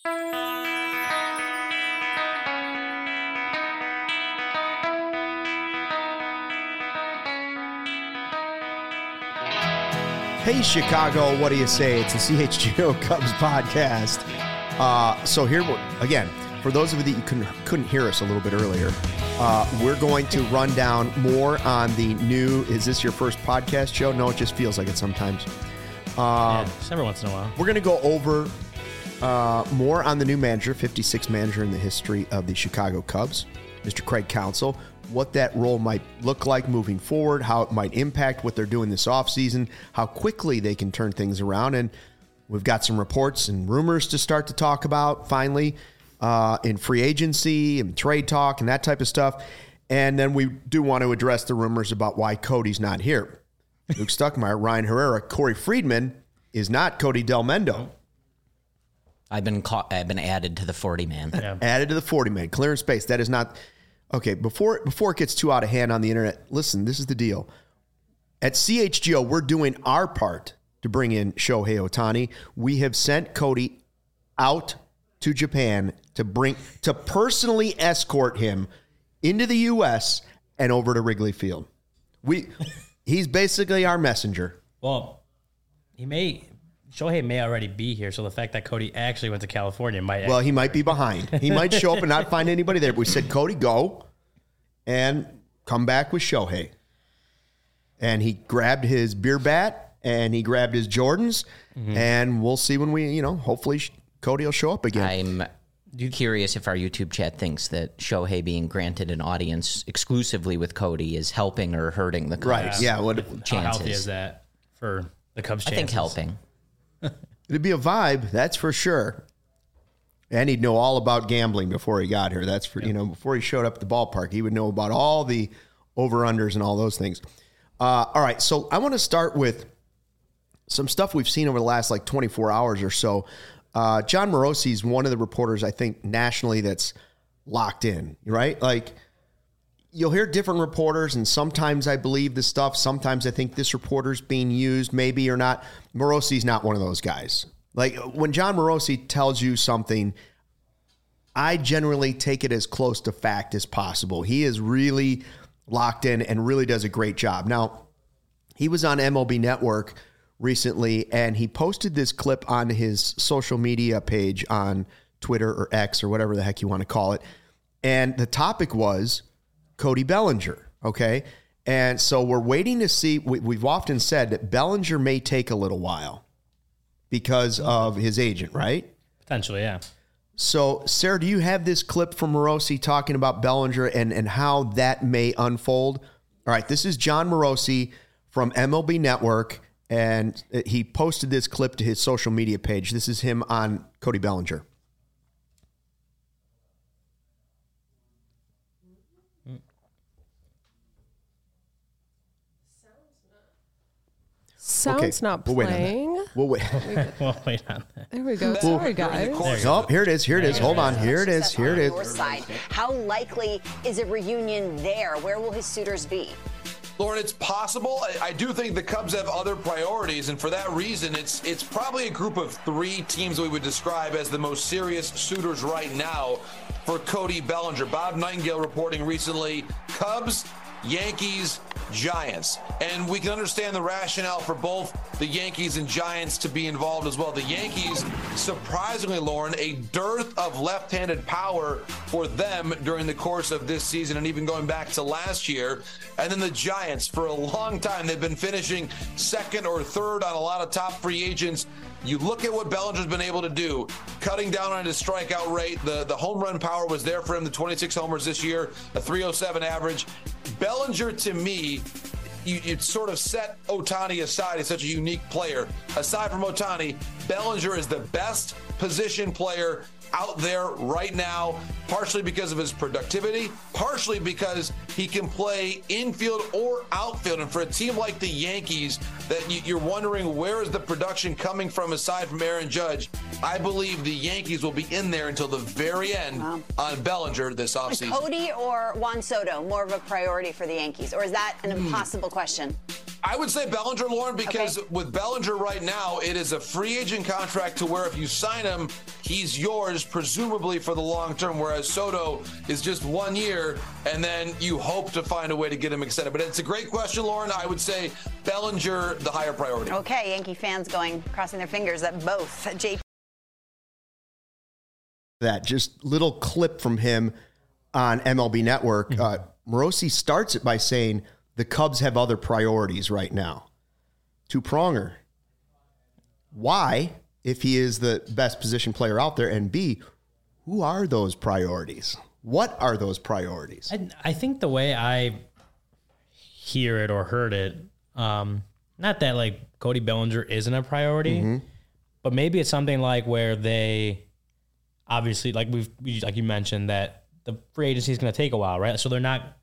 Hey, Chicago, what do you say? It's the CHGO Cubs podcast. So here, again, for those of you that couldn't hear us a little bit earlier, we're going to run down more on the new, is this your first podcast show? No, it just feels like it sometimes. Just every once in a while. We're going to go over more on the new manager, 56th manager in the history of the Chicago Cubs, Mr. Craig Counsell, what that role might look like moving forward, how it might impact what they're doing this offseason, how quickly they can turn things around. And we've got some reports and rumors to start to talk about finally in free agency and trade talk and that type of stuff. And then we do want to address the rumors about why Cody's not here. Luke Stuckmeyer, Ryan Herrera, Corey Friedman is not Cody Del Mendo. I've been added to the 40-man. Yeah. Added to the 40-man. Clearing space. That is not... Okay, before it gets too out of hand on the internet, listen, this is the deal. At CHGO, we're doing our part to bring in Shohei Ohtani. We have sent Cody out to Japan to personally escort him into the U.S. and over to Wrigley Field. He's basically our messenger. Well, Shohei may already be here, so the fact that Cody actually went to California might... Well, he might be behind. He might show up and not find anybody there. But we said, Cody, go and come back with Shohei. And he grabbed his beer bat and he grabbed his Jordans. Mm-hmm. And we'll see when we, hopefully Cody will show up again. I'm curious if our YouTube chat thinks that Shohei being granted an audience exclusively with Cody is helping or hurting the Cubs. Right, yeah. How healthy is that for the Cubs' chances? I think helping. It'd be a vibe, that's for sure. And he'd know all about gambling before he got here. That's for before he showed up at the ballpark, he would know about all the over-unders and all those things. All right, so I want to start with some stuff we've seen over the last 24 hours or so. Jon Morosi is one of the reporters, I think, nationally that's locked in, right? You'll hear different reporters, and sometimes I believe this stuff. Sometimes I think this reporter's being used, maybe or not. Morosi's not one of those guys. When Jon Morosi tells you something, I generally take it as close to fact as possible. He is really locked in and really does a great job. Now, he was on MLB Network recently, and he posted this clip on his social media page on Twitter or X or whatever the heck you want to call it. And the topic was Cody Bellinger, okay? And so we're waiting to see. We've often said that Bellinger may take a little while because of his agent, right? Potentially, yeah. So, Sarah, do you have this clip from Morosi talking about Bellinger and how that may unfold? All right, this is Jon Morosi from MLB Network, and he posted this clip to his social media page. This is him on Cody Bellinger. Sound's not playing. We'll wait. We'll wait on that. There we go. Sorry, guys. Oh, here it is. Here it is. Hold on. Here it is. Here it is. Your side. How likely is a reunion there? Where will his suitors be? Lauren, it's possible. I do think the Cubs have other priorities, and for that reason, it's probably a group of three teams that we would describe as the most serious suitors right now for Cody Bellinger. Bob Nightingale reporting recently, Cubs, Yankees, Giants. And we can understand the rationale for both the Yankees and Giants to be involved as well. The Yankees, surprisingly, Lauren, a dearth of left-handed power for them during the course of this season and even going back to last year. And then the Giants, for a long time, they've been finishing second or third on a lot of top free agents. You look at what Bellinger's been able to do, cutting down on his strikeout rate. The home run power was there for him, the 26 homers this year, a 307 average. Bellinger, to me, you sort of set Ohtani aside. He's such a unique player. Aside from Ohtani, Bellinger is the best position player out there right now, partially because of his productivity, partially because he can play infield or outfield. And for a team like the Yankees, that you're wondering where is the production coming from aside from Aaron Judge, I believe the Yankees will be in there until the very end on Bellinger this offseason. Cody or Juan Soto more of a priority for the Yankees, or is that an impossible question? I would say Bellinger, Lauren, because with Bellinger right now, it is a free agent contract to where if you sign him, he's yours presumably for the long term, whereas Soto is just 1 year, and then you hope to find a way to get him extended. But it's a great question, Lauren. I would say Bellinger, the higher priority. Okay, Yankee fans crossing their fingers that both JP. That just little clip from him on MLB Network. Morosi starts it by saying the Cubs have other priorities right now. Two-pronger. Why, if he is the best position player out there? And B, who are those priorities? What are those priorities? I think the way I hear it or heard it, not that like Cody Bellinger isn't a priority, but maybe it's something like where they obviously, like like you mentioned, that the free agency is going to take a while, right? So they're not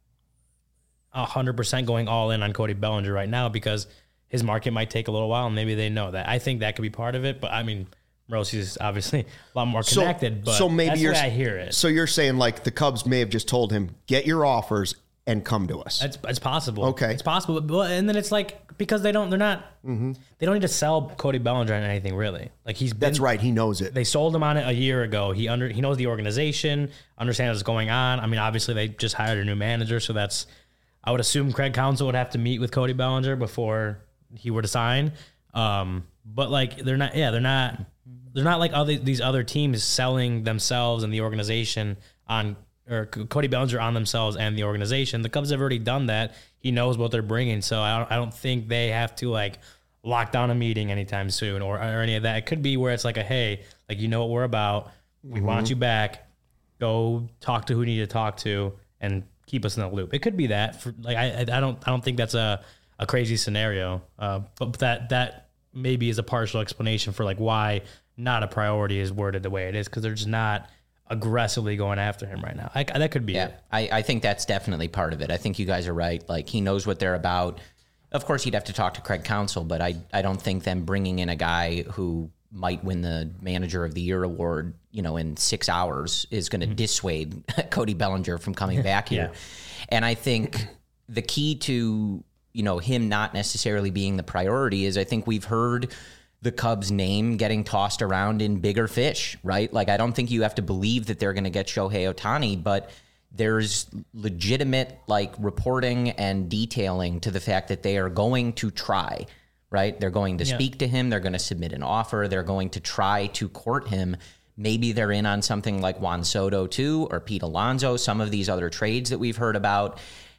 100% going all in on Cody Bellinger right now because his market might take a little while, and maybe they know that. I think that could be part of it, but I mean, Rossi is obviously a lot more connected, but so maybe that's the way I hear it. So you're saying like the Cubs may have just told him, get your offers and come to us. It's possible. Okay. It's possible. But, and then it's like, because they don't need to sell Cody Bellinger on anything really. Like that's right. He knows it. They sold him on it a year ago. He knows the organization, understands what's going on. I mean, obviously they just hired a new manager. So I would assume Craig Counsell would have to meet with Cody Bellinger before he were to sign. But like, they're not like these other teams selling themselves and the organization or Cody Bellinger on themselves and the organization. The Cubs have already done that. He knows what they're bringing. So I don't think they have to like lock down a meeting anytime soon or any of that. It could be where it's like hey, like, you know what we're about. We want you back. Go talk to who you need to talk to and keep us in the loop. It could be that. I don't think that's a crazy scenario. But that maybe is a partial explanation for like why not a priority is worded the way it is, because they're just not aggressively going after him right now. That could be it. I think that's definitely part of it. I think you guys are right. Like, he knows what they're about. Of course, he'd have to talk to Craig Counsell, but I don't think them bringing in a guy who might win the Manager of the Year award, in 6 hours is going to dissuade Cody Bellinger from coming back here. And I think the key to, him not necessarily being the priority is I think we've heard the Cubs' name getting tossed around in bigger fish, right? Like, I don't think you have to believe that they're going to get Shohei Ohtani, but there's legitimate like reporting and detailing to the fact that they are going to try, right? They're going to speak to him. They're going to submit an offer. They're going to try to court him. Maybe they're in on something like Juan Soto too, or Pete Alonso, some of these other trades that we've heard about.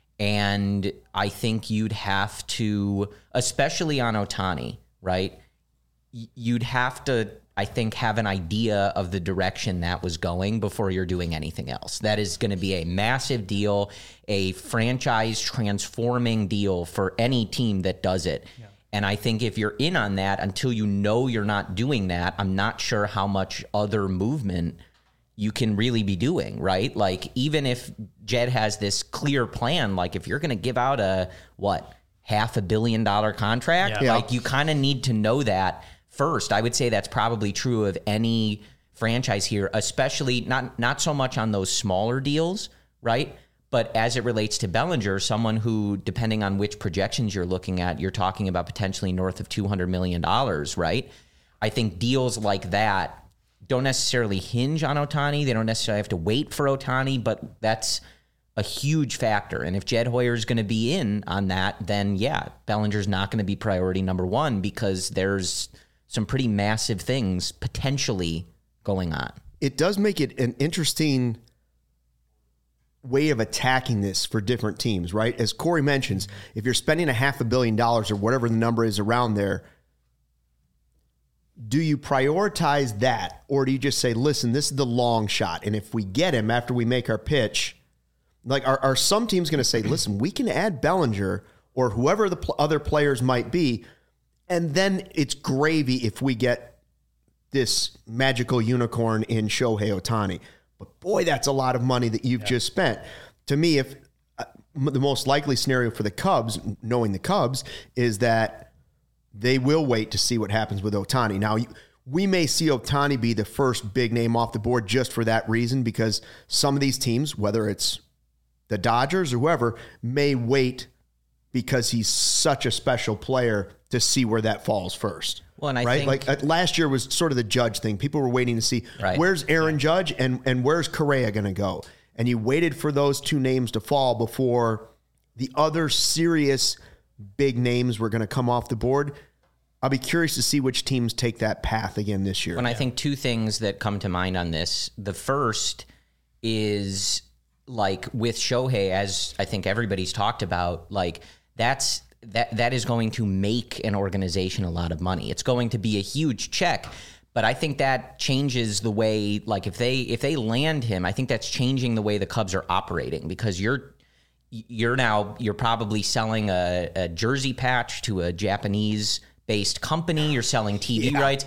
And I think you'd have to, especially on Ohtani, right? You'd have to, I think, have an idea of the direction that was going before you're doing anything else. That is going to be a massive deal, a franchise transforming deal for any team that does it. Yeah. And I think if you're in on that, until you know you're not doing that, I'm not sure how much other movement you can really be doing, right? Like, even if Jed has this clear plan, like if you're going to give out a, $500 million contract, like you kind of need to know that first. I would say that's probably true of any franchise here, especially not so much on those smaller deals, right? But as it relates to Bellinger, someone who, depending on which projections you're looking at, you're talking about potentially north of $200 million, right? I think deals like that don't necessarily hinge on Ohtani. They don't necessarily have to wait for Ohtani, but that's a huge factor. And if Jed Hoyer is going to be in on that, then Bellinger's not going to be priority number one, because there's some pretty massive things potentially going on. It does make it an interesting way of attacking this for different teams, right? As Corey mentions, if you're spending $500 million or whatever the number is around there, do you prioritize that, or do you just say, listen, this is the long shot, and if we get him after we make our pitch, like, are some teams going to say, listen, we can add Bellinger or whoever the other players might be, and then it's gravy if we get this magical unicorn in Shohei Ohtani. But boy, that's a lot of money that you've just spent. To me, if the most likely scenario for the Cubs, knowing the Cubs, is that they will wait to see what happens with Ohtani. Now, we may see Ohtani be the first big name off the board just for that reason, because some of these teams, whether it's the Dodgers or whoever, may wait because he's such a special player to see where that falls first. Well, and I right? think, Like last year was sort of the Judge thing. People were waiting to see where's Aaron Judge and where's Correa going to go. And you waited for those two names to fall before the other serious big names were going to come off the board. I'll be curious to see which teams take that path again this year. And I think two things that come to mind on this. The first is like with Shohei, as I think everybody's talked about, like that is going to make an organization a lot of money. It's going to be a huge check, but I think that changes the way, like if they land him, I think that's changing the way the Cubs are operating, because you're probably selling a jersey patch to a Japanese based company. You're selling TV rights.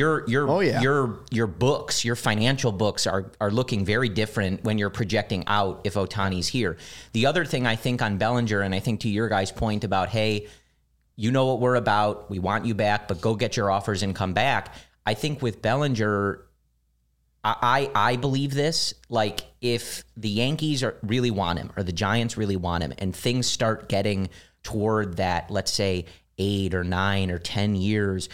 Your books, your financial books are looking very different when you're projecting out if Ohtani's here. The other thing I think on Bellinger, and I think to your guys' point about, hey, you know what we're about, we want you back, but go get your offers and come back. I think with Bellinger, I believe this, like if the Yankees really want him or the Giants really want him and things start getting toward that, let's say, 8 or 9 or 10 years,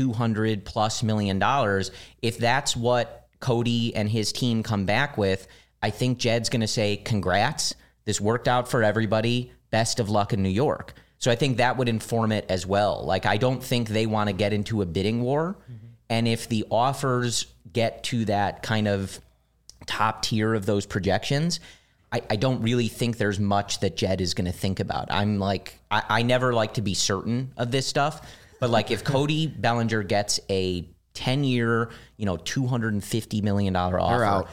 $200+ million. If that's what Cody and his team come back with, I think Jed's going to say, congrats, this worked out for everybody. Best of luck in New York. So I think that would inform it as well. Like, I don't think they want to get into a bidding war. Mm-hmm. And if the offers get to that kind of top tier of those projections, I don't really think there's much that Jed is going to think about. I'm like, I never like to be certain of this stuff, but like if Cody Bellinger gets a 10-year, $250 million offer,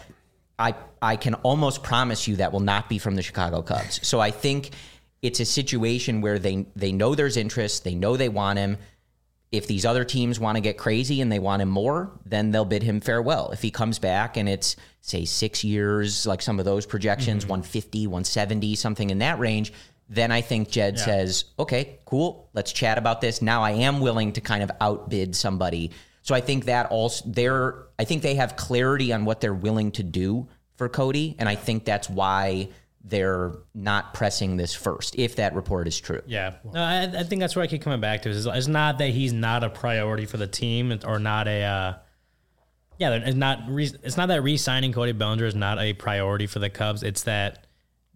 I can almost promise you that will not be from the Chicago Cubs. So I think it's a situation where they know there's interest, they know they want him. If these other teams want to get crazy and they want him more, then they'll bid him farewell. If he comes back and it's, say, 6 years, like some of those projections, 150, 170, something in that range, then I think Jed says, okay, cool, let's chat about this. Now I am willing to kind of outbid somebody. So I think that also I think they have clarity on what they're willing to do for Cody, and I think that's why they're not pressing this first, if that report is true. Yeah. No, I think that's where I keep coming back to. It's not that he's not a priority for the team or not a it's not that re-signing Cody Bellinger is not a priority for the Cubs. It's that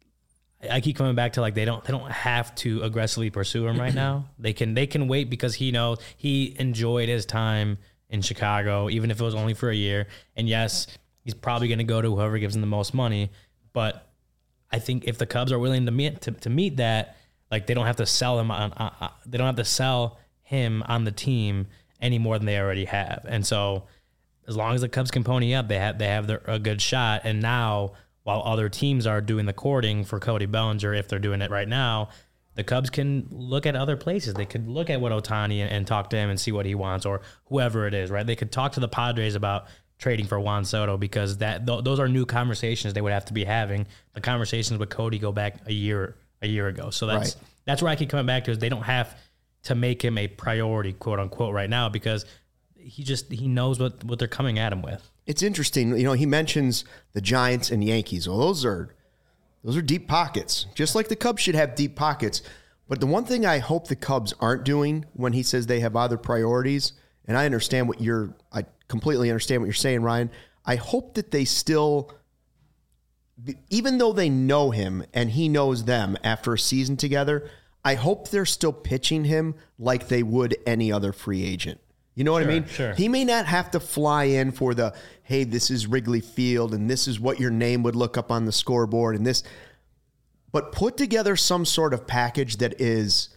I keep coming back to, like, they don't have to aggressively pursue him right now. They can wait because he knows he enjoyed his time in Chicago, even if it was only for a year. And yes, he's probably going to go to whoever gives him the most money, but I think if the Cubs are willing to meet that, like, they don't have to sell him they don't have to sell him on the team any more than they already have. And so, as long as the Cubs can pony up, they have a good shot. And now, while other teams are doing the courting for Cody Bellinger, if they're doing it right now, the Cubs can look at other places. They could look at what Ohtani and talk to him and see what he wants, or whoever it is. Right? They could talk to the Padres about trading for Juan Soto, because those are new conversations they would have to be having. The conversations with Cody go back a year ago. So that's where I keep coming back to, is they don't have to make him a priority, quote unquote, right now, because he knows what they're coming at him with. It's interesting. He mentions the Giants and Yankees. Well, those are deep pockets, just like the Cubs should have deep pockets. But the one thing I hope the Cubs aren't doing when he says they have other priorities, and I completely understand what you're saying, Ryan. I hope that they still, even though they know him and he knows them after a season together, I hope they're still pitching him like they would any other free agent. You know what I mean? Sure. He may not have to fly in for the, hey, this is Wrigley Field and this is what your name would look up on the scoreboard and this, but put together some sort of package that is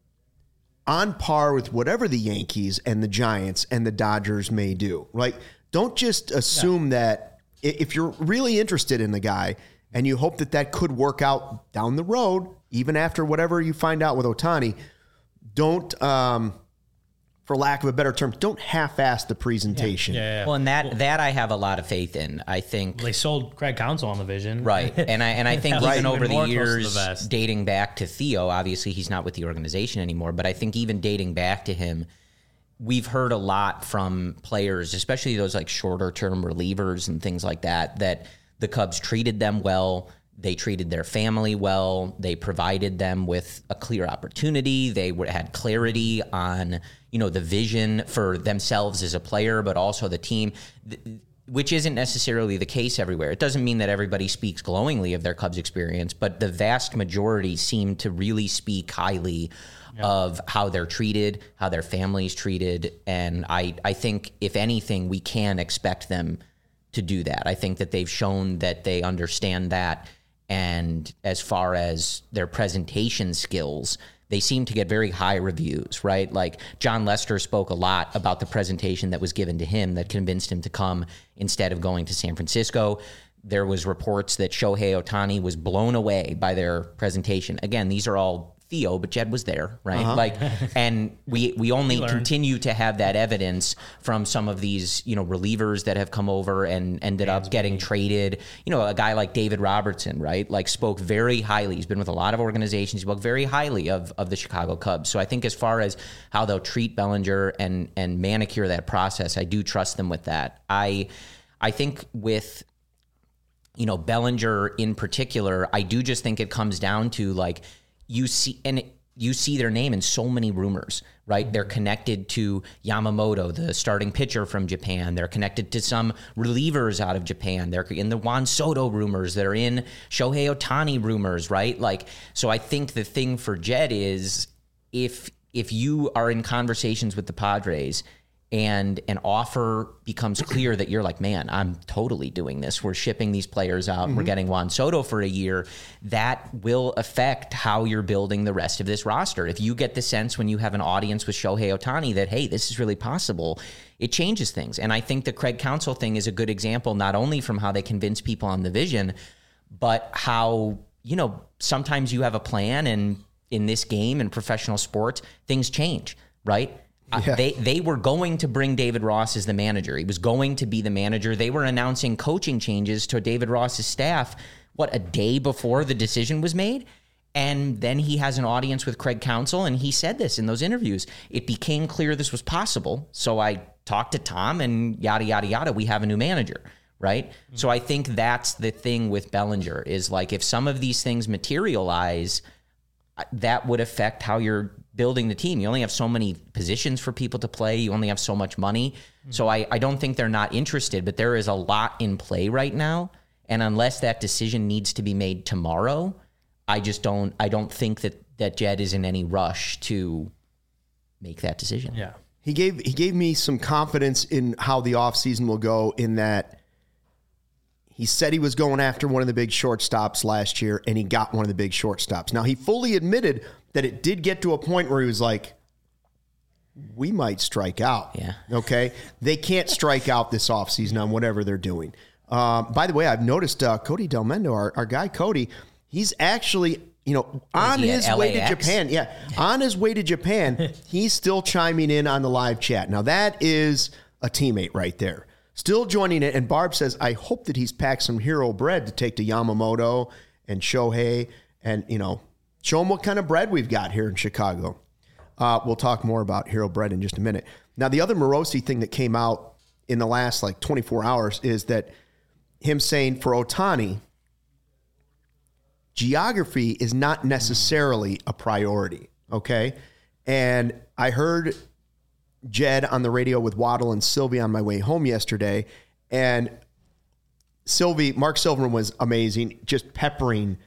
on par with whatever the Yankees and the Giants and the Dodgers may do. Like, don't just assume that if you're really interested in the guy and you hope that could work out down the road, even after whatever you find out with Ohtani, don't, for lack of a better term, don't half-ass the presentation. Yeah. Well, and that I have a lot of faith in. I think they sold Craig Counsell on the vision, right? And I think even over the years, dating back to Theo, obviously he's not with the organization anymore, but I think even dating back to him, we've heard a lot from players, especially those like shorter-term relievers and things like that the Cubs treated them well. They treated their family well. They provided them with a clear opportunity. They had clarity on, the vision for themselves as a player, but also the team, which isn't necessarily the case everywhere. It doesn't mean that everybody speaks glowingly of their Cubs experience, but the vast majority seem to really speak highly of how they're treated, how their family's treated. And I think, if anything, we can expect them to do that. I think that they've shown that they understand that. And as far as their presentation skills, they seem to get very high reviews, right? Like John Lester spoke a lot about the presentation that was given to him that convinced him to come instead of going to San Francisco. There was reports that Shohei Ohtani was blown away by their presentation. Again, these are all Theo, but Jed was there, right? And we only continue to have that evidence from some of these, relievers that have come over and ended up getting traded. A guy like David Robertson, right? Like spoke very highly. He's been with a lot of organizations. He spoke very highly of the Chicago Cubs. So I think as far as how they'll treat Bellinger and manicure that process, I do trust them with that. I think with Bellinger in particular, I do just think it comes down to you see their name in so many rumors, right? They're connected to Yamamoto, the starting pitcher from Japan. They're connected to some relievers out of Japan. They're in the Juan Soto rumors. They're in Shohei Ohtani rumors, right? So I think the thing for Jed is if you are in conversations with the Padres and an offer becomes clear that you're like, man, I'm totally doing this. We're shipping these players out. We're getting Juan Soto for a year. That will affect how you're building the rest of this roster. If you get the sense when you have an audience with Shohei Ohtani that, hey, this is really possible, it changes things. And I think the Craig Counsell thing is a good example, not only from how they convince people on the vision, but how, sometimes you have a plan, and in this game and professional sports, things change, right? Yeah. They were going to bring David Ross as the manager. He was going to be the manager. They were announcing coaching changes to David Ross's staff, a day before the decision was made? And then he has an audience with Craig Counsell, and he said this in those interviews. It became clear this was possible, so I talked to Tom, and yada, yada, yada, we have a new manager, right? Mm-hmm. So I think that's the thing with Bellinger is if some of these things materialize, that would affect how you're building the team. You only have so many positions for people to play. You only have so much money. Mm-hmm. So I don't think they're not interested, but there is a lot in play right now. And unless that decision needs to be made tomorrow, I don't think that Jed is in any rush to make that decision. Yeah. He gave me some confidence in how the offseason will go, in that he said he was going after one of the big shortstops last year, and he got one of the big shortstops. Now, he fully admitted that it did get to a point where he was like, we might strike out. Yeah. Okay? They can't strike out this offseason on whatever they're doing. By the way, I've noticed Cody Delmendo, our guy Cody, he's actually, on his way to Japan. Yeah, on his way to Japan, he's still chiming in on the live chat. Now, that is a teammate right there. Still joining it. And Barb says, I hope that he's packed some hero bread to take to Yamamoto and Shohei and, show them what kind of bread we've got here in Chicago. We'll talk more about hero bread in just a minute. Now, the other Morosi thing that came out in the last 24 hours is that him saying for Ohtani, geography is not necessarily a priority, okay? And I heard Jed on the radio with Waddle and Sylvie on my way home yesterday, and Mark Silverman was amazing, just peppering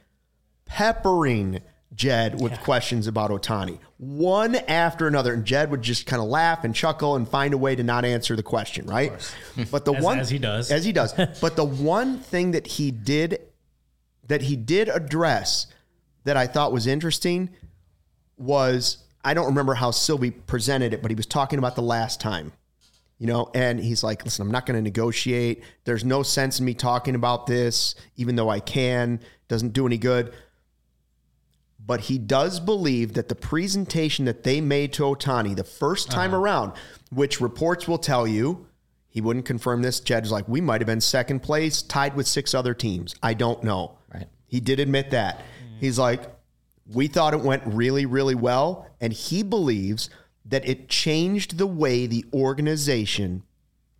Jed with questions about Ohtani, one after another, and Jed would just kind of laugh and chuckle and find a way to not answer the question, right? But as he does. But the one thing that he did address that I thought was interesting was, I don't remember how Sylvie presented it, but he was talking about the last time, and he's like, listen, I'm not going to negotiate. There's no sense in me talking about this, even though I can. Doesn't do any good. But he does believe that the presentation that they made to Ohtani the first time around, which reports will tell you, he wouldn't confirm this. Jed was like, we might have been second place, tied with 6 other teams. I don't know. Right. He did admit that. He's like, we thought it went really, really well. And he believes that it changed the way the organization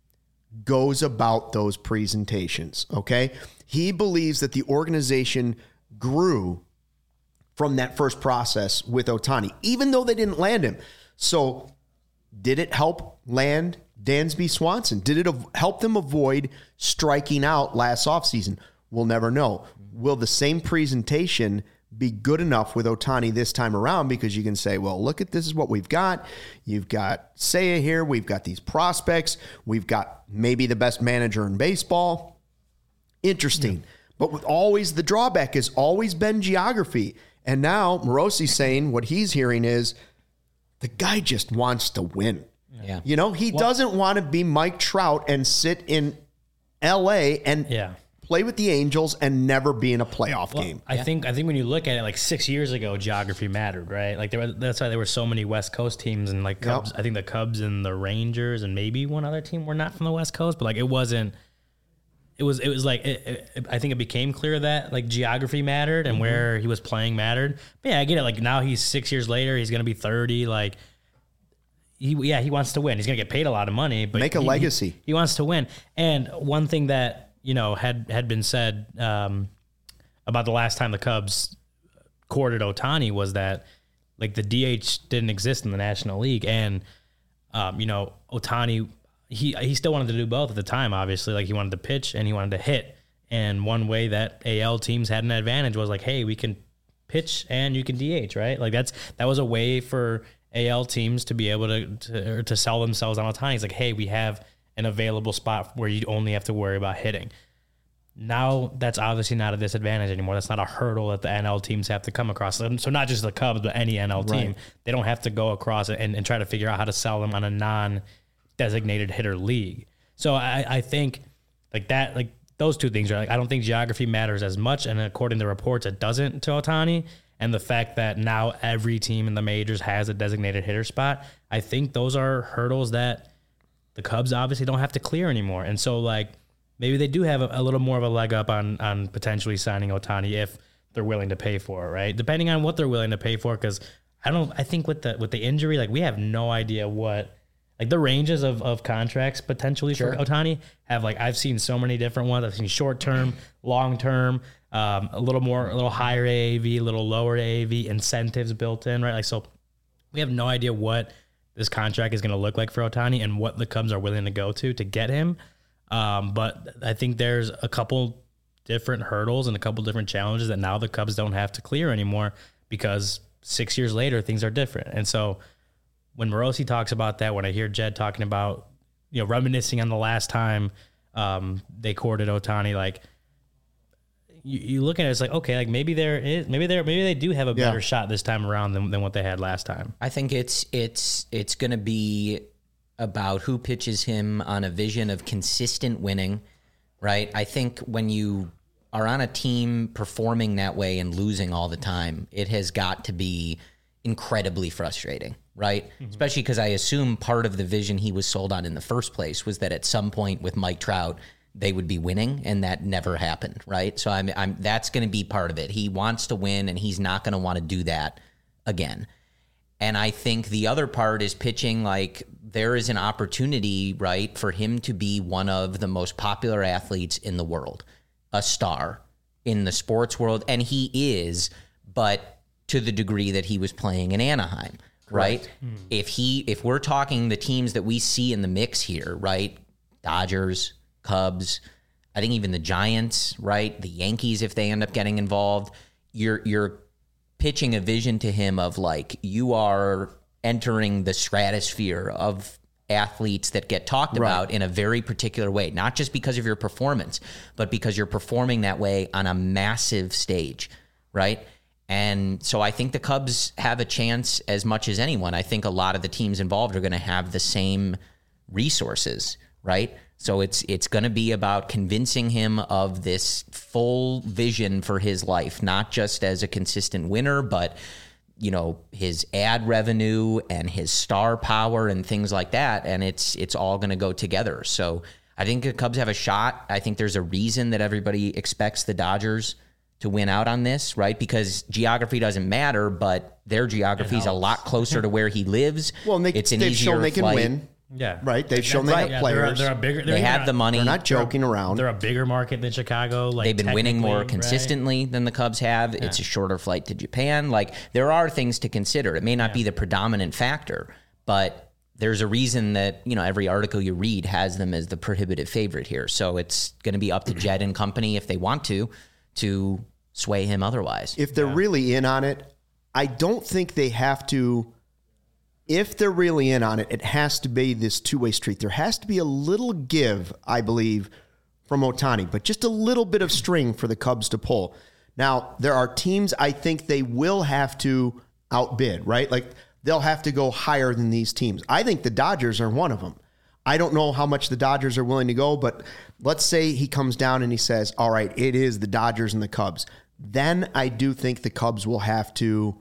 goes about those presentations, okay? He believes that the organization grew from that first process with Ohtani, even though they didn't land him. So did it help land Dansby Swanson? Did it help them avoid striking out last offseason? We'll never know. Will the same presentation be good enough with Ohtani this time around? Because you can say, well, look at this is what we've got. You've got Seiya here. We've got these prospects. We've got maybe the best manager in baseball. Interesting. Yeah. But with always the drawback has always been geography. And now Morosi's saying what he's hearing is the guy just wants to win. Yeah. You know, he doesn't want to be Mike Trout and sit in L.A. and play with the Angels and never be in a playoff game. I think when you look at it, like 6 years ago, geography mattered, right? Like that's why there were so many West Coast teams and like Cubs. I think the Cubs and the Rangers and maybe one other team were not from the West Coast, but like it wasn't. It was like I think it became clear that like geography mattered and where he was playing mattered. But yeah, I get it. Like now he's 6 years later, he's gonna be 30. Like he wants to win. He's gonna get paid a lot of money, but make a legacy. He wants to win. And one thing that had been said about the last time the Cubs courted Ohtani was that like the DH didn't exist in the National League, and Ohtani. He still wanted to do both at the time, obviously. Like, he wanted to pitch and he wanted to hit. And one way that AL teams had an advantage was like, hey, we can pitch and you can DH, right? Like, that was a way for AL teams to be able to sell themselves on Ohtani. It's like, hey, we have an available spot where you only have to worry about hitting. Now, that's obviously not a disadvantage anymore. That's not a hurdle that the NL teams have to come across. So not just the Cubs, but any NL team. Right. They don't have to go across it and try to figure out how to sell them on a non-designated hitter league. So I think like that, like those two things are like, I don't think geography matters as much. And according to reports, it doesn't to Ohtani. And the fact that now every team in the majors has a designated hitter spot, I think those are hurdles that the Cubs obviously don't have to clear anymore. And so like maybe they do have a little more of a leg up on potentially signing Ohtani if they're willing to pay for it, right? Depending on what they're willing to pay for, because I think with the injury, like we have no idea what. Like the ranges of contracts potentially for Ohtani have like, I've seen so many different ones. I've seen short-term, long-term, a little higher AAV, a little lower AAV, incentives built in, right? Like, so we have no idea what this contract is going to look like for Ohtani and what the Cubs are willing to go to get him. But I think there's a couple different hurdles and a couple different challenges that now the Cubs don't have to clear anymore because 6 years later, things are different. And so when Morosi talks about that, when I hear Jed talking about, reminiscing on the last time they courted Ohtani, like you look at it, it's like, okay, like maybe they do have a better shot this time around than what they had last time. I think it's going to be about who pitches him on a vision of consistent winning, right? I think when you are on a team performing that way and losing all the time, it has got to be incredibly frustrating, right? Mm-hmm. Especially because I assume part of the vision he was sold on in the first place was that at some point with Mike Trout, they would be winning, and that never happened, right? So I'm that's going to be part of it. He wants to win, and he's not going to want to do that again. And I think the other part is pitching. Like, there is an opportunity, right, for him to be one of the most popular athletes in the world, a star in the sports world, and he is, but to the degree that he was playing in Anaheim, right? If we're talking the teams that we see in the mix here, right? Dodgers, Cubs, I think even the Giants, right? The Yankees, if they end up getting involved, you're pitching a vision to him of like, you are entering the stratosphere of athletes that get talked about in a very particular way, not just because of your performance, but because you're performing that way on a massive stage, right? And so I think the Cubs have a chance as much as anyone. I think a lot of the teams involved are going to have the same resources, right? So it's going to be about convincing him of this full vision for his life, not just as a consistent winner, but his ad revenue and his star power and things like that. And it's all going to go together. So I think the Cubs have a shot. I think there's a reason that everybody expects the Dodgers to win out on this, right? Because geography doesn't matter, but their geography is a lot closer to where he lives. Well, and they've shown they can win. Yeah. Right? They've shown they have Yeah, players. They're a bigger. They have the money. They're not joking around. They're a bigger market than Chicago. Like They've been winning more technically, right? consistently than the Cubs have. It's a shorter flight to Japan. Like, there are things to consider. It may not be the predominant factor, but there's a reason that, every article you read has them as the prohibitive favorite here. So it's going to be up to Jed and company, if they want to sway him otherwise. If they're really in on it, I don't think they have to. If they're really in on it, it has to be this two-way street. There has to be a little give, I believe, from Ohtani, but just a little bit of string for the Cubs to pull. Now, there are teams I think they will have to outbid, right? Like, they'll have to go higher than these teams. I think the Dodgers are one of them. I don't know how much the Dodgers are willing to go, but let's say he comes down and he says, all right, it is the Dodgers and the Cubs. Then I do think the Cubs will have to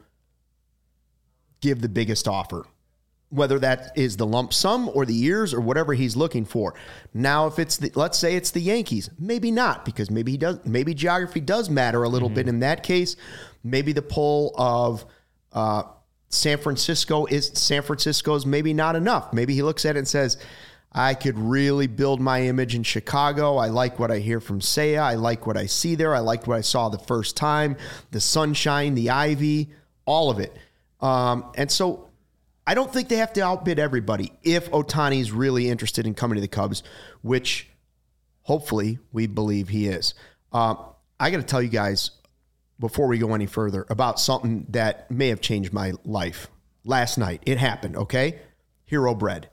give the biggest offer, whether that is the lump sum or the years or whatever he's looking for. Now, if it's let's say it's the Yankees, maybe not, because maybe geography does matter a little bit in that case. Maybe the pull of San Francisco's maybe not enough. Maybe he looks at it and says, I could really build my image in Chicago. I like what I hear from Seiya. I like what I see there. I liked what I saw the first time, the sunshine, the ivy, all of it. And so I don't think they have to outbid everybody if Ohtani's really interested in coming to the Cubs, which hopefully we believe he is. I got to tell you guys, before we go any further, about something that may have changed my life. Last night, it happened, okay? Hero Bread.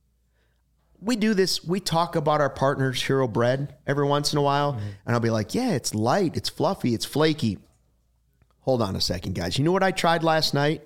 We do this, we talk about our partners, Hero Bread, every once in a while, and I'll be like, yeah, it's light, it's fluffy, it's flaky. Hold on a second, guys. You know what I tried last night?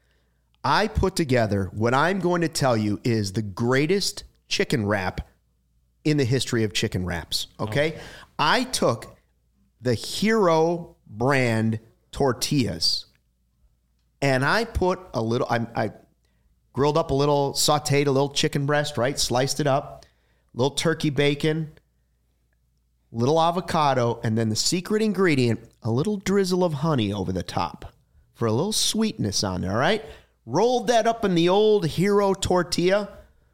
I put together what I'm going to tell you is the greatest chicken wrap in the history of chicken wraps, okay? I took the Hero brand tortillas and I put a little, I grilled up a little, sauteed a little chicken breast, right? Sliced it up, little turkey bacon, little avocado, and then the secret ingredient, a little drizzle of honey over the top for a little sweetness on there, all right? Rolled that up in the old Hero tortilla.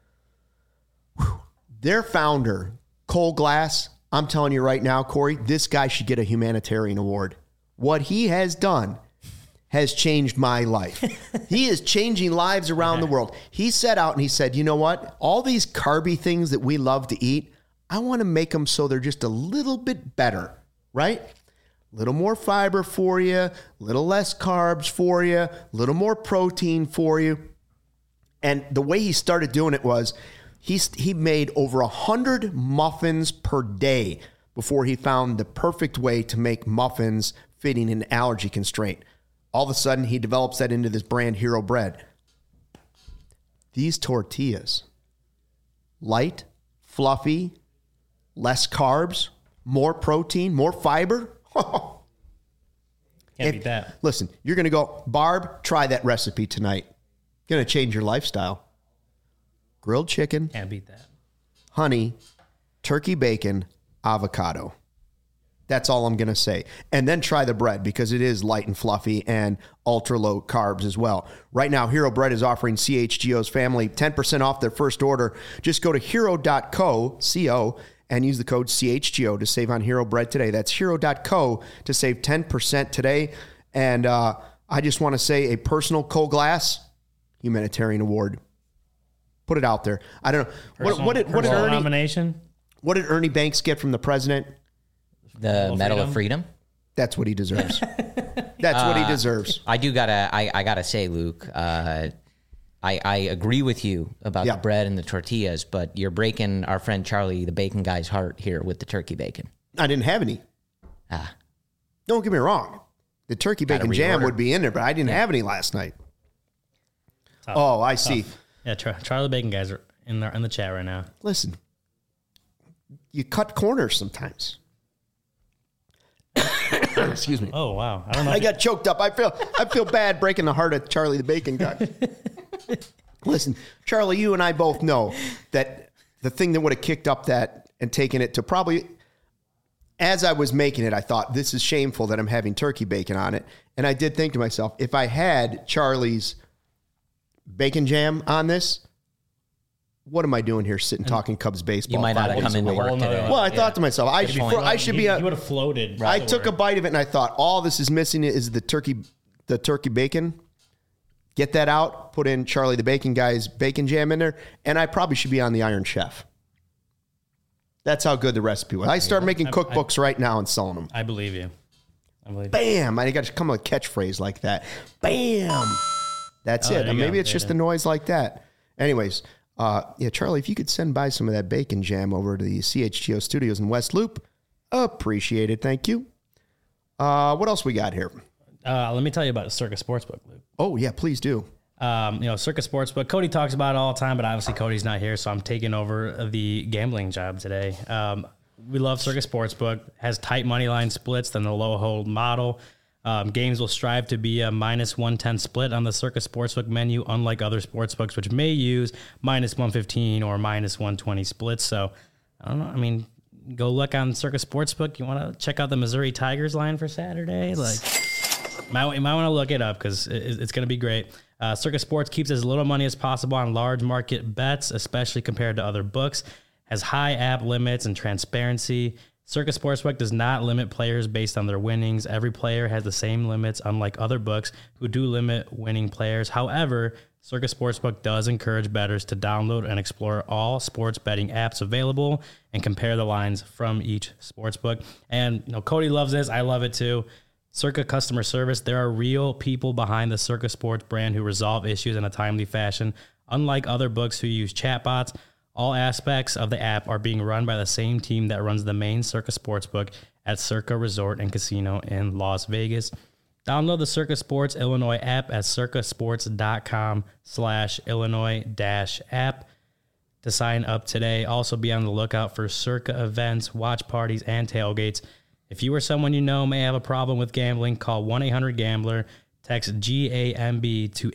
Whew. Their founder, Cole Glass, I'm telling you right now, Corey, this guy should get a humanitarian award. What he has done has changed my life. He is changing lives around the world. He set out and he said, you know what? All these carby things that we love to eat, I want to make them so they're just a little bit better, right? A little more fiber for you, a little less carbs for you, a little more protein for you. And the way he started doing it was he made over 100 muffins per day before he found the perfect way to make muffins fitting an allergy constraint. All of a sudden, he develops that into this brand, Hero Bread. These tortillas, light, fluffy, less carbs, more protein, more fiber. Can't beat that. Listen, you're going to go, Barb, try that recipe tonight. Going to change your lifestyle. Grilled chicken, Can't beat that. honey, turkey bacon, avocado. That's all I'm going to say. And then try the bread because it is light and fluffy and ultra low carbs as well. Right now, Hero Bread is offering CHGO's family 10% off their first order. Just go to hero.co, C-O, and use the code CHGO to save on Hero Bread today. That's hero.co to save 10% today. And I just want to say a personal Cole Glass humanitarian award. Put it out there. I don't know. What did Ernie nomination? What did Ernie Banks get from the president? The Medal of Freedom. That's what he deserves. That's what he deserves. I gotta say, Luke, I agree with you about the bread and the tortillas, but you're breaking our friend Charlie, the bacon guy's heart here with the turkey bacon. I didn't have any. Don't get me wrong. The turkey bacon jam would be in there, but I didn't have any last night. Tough. Oh, I see. Yeah, Charlie Bacon guys are in the chat right now. Listen, you cut corners sometimes. Excuse me. Oh wow! I don't know. I got choked up. I feel bad breaking the heart of Charlie the bacon guy. Listen, Charlie, you and I both know that the thing that would have kicked up that and taken it to probably, as I was making it, I thought, this is shameful that I'm having turkey bacon on it. And I did think to myself, if I had Charlie's bacon jam on this, what am I doing here sitting talking Cubs baseball? You might not have come into work today. Well, I thought to myself, I should be. He would have floated. I took a bite of it and I thought, all this is missing is the turkey bacon. Get that out, put in Charlie the Bacon Guy's bacon jam in there, and I probably should be on the Iron Chef. That's how good the recipe was. I start making cookbooks right now and selling them. I believe you. Bam! I got to come with a catchphrase like that. Bam! That's it. And maybe it's just the noise like that. Anyways, Charlie, if you could send by some of that bacon jam over to the CHGO studios in West Loop, appreciate it. Thank you. What else we got here? Let me tell you about Circa Sportsbook, Luke. Oh, yeah, please do. Circa Sportsbook. Cody talks about it all the time, but obviously Cody's not here, so I'm taking over the gambling job today. We love Circa Sportsbook. Has tight money line splits than the low hold model. Games will strive to be a -110 split on the Circa Sportsbook menu, unlike other sportsbooks, which may use -115 or -120 splits. So, I don't know. I mean, go look on Circa Sportsbook. You want to check out the Missouri Tigers line for Saturday? You might want to look it up because it's going to be great. Circa Sports keeps as little money as possible on large market bets, especially compared to other books. Has high app limits and transparency. Circa Sportsbook does not limit players based on their winnings. Every player has the same limits, unlike other books who do limit winning players. However, Circa Sportsbook does encourage bettors to download and explore all sports betting apps available and compare the lines from each sportsbook. And Cody loves this. I love it too. Circa customer service. There are real people behind the Circa Sports brand who resolve issues in a timely fashion. Unlike other books who use chatbots, all aspects of the app are being run by the same team that runs the main Circa Sportsbook at Circa Resort and Casino in Las Vegas. Download the Circa Sports Illinois app at circasports.com/Illinois-app to sign up today. Also be on the lookout for Circa events, watch parties, and tailgates. If you or someone you know may have a problem with gambling, call 1-800-GAMBLER, text GAMB to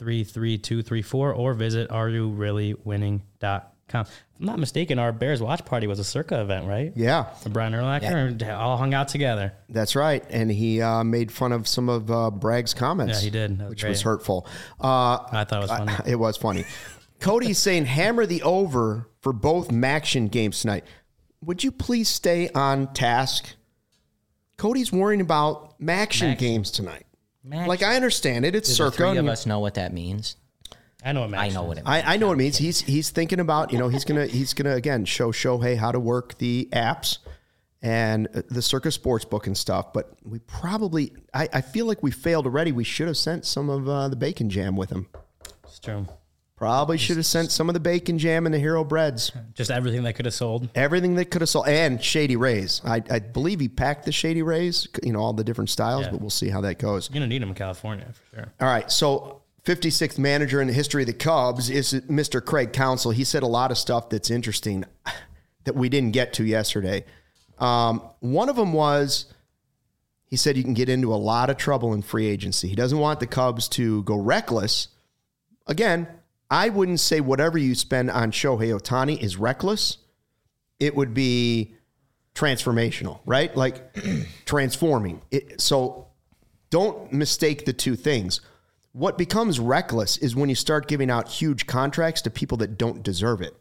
833-234, or visit areyoureallywinning.com. If I'm not mistaken, our Bears watch party was a Circa event, right? Yeah. Brian Urlacher all hung out together. That's right. And he made fun of some of Bragg's comments. Yeah, he did. Which was hurtful. I thought it was funny. It was funny. Cody's saying hammer the over for both MACtion games tonight. Would you please stay on task? Cody's worrying about MACtion games tonight. Like, I understand it. It's Circa. The three of us know what that means. I know what MACtion I know what it means. I know what it means. He's thinking about, he's gonna again show Shohei how to work the apps and the Circa Sportsbook and stuff. But we probably, I feel like we failed already. We should have sent some of the bacon jam with him. It's true. Probably should have sent some of the bacon jam and the Hero Breads. Just everything they could have sold. Everything they could have sold. And Shady Rays. I believe he packed the Shady Rays, all the different styles, but we'll see how that goes. You're going to need them in California for sure. All right. So 56th manager in the history of the Cubs is Mr. Craig Counsell. He said a lot of stuff that's interesting that we didn't get to yesterday. One of them was, he said you can get into a lot of trouble in free agency. He doesn't want the Cubs to go reckless. Again, I wouldn't say whatever you spend on Shohei Ohtani is reckless. It would be transformational, right? Like transforming. So don't mistake the two things. What becomes reckless is when you start giving out huge contracts to people that don't deserve it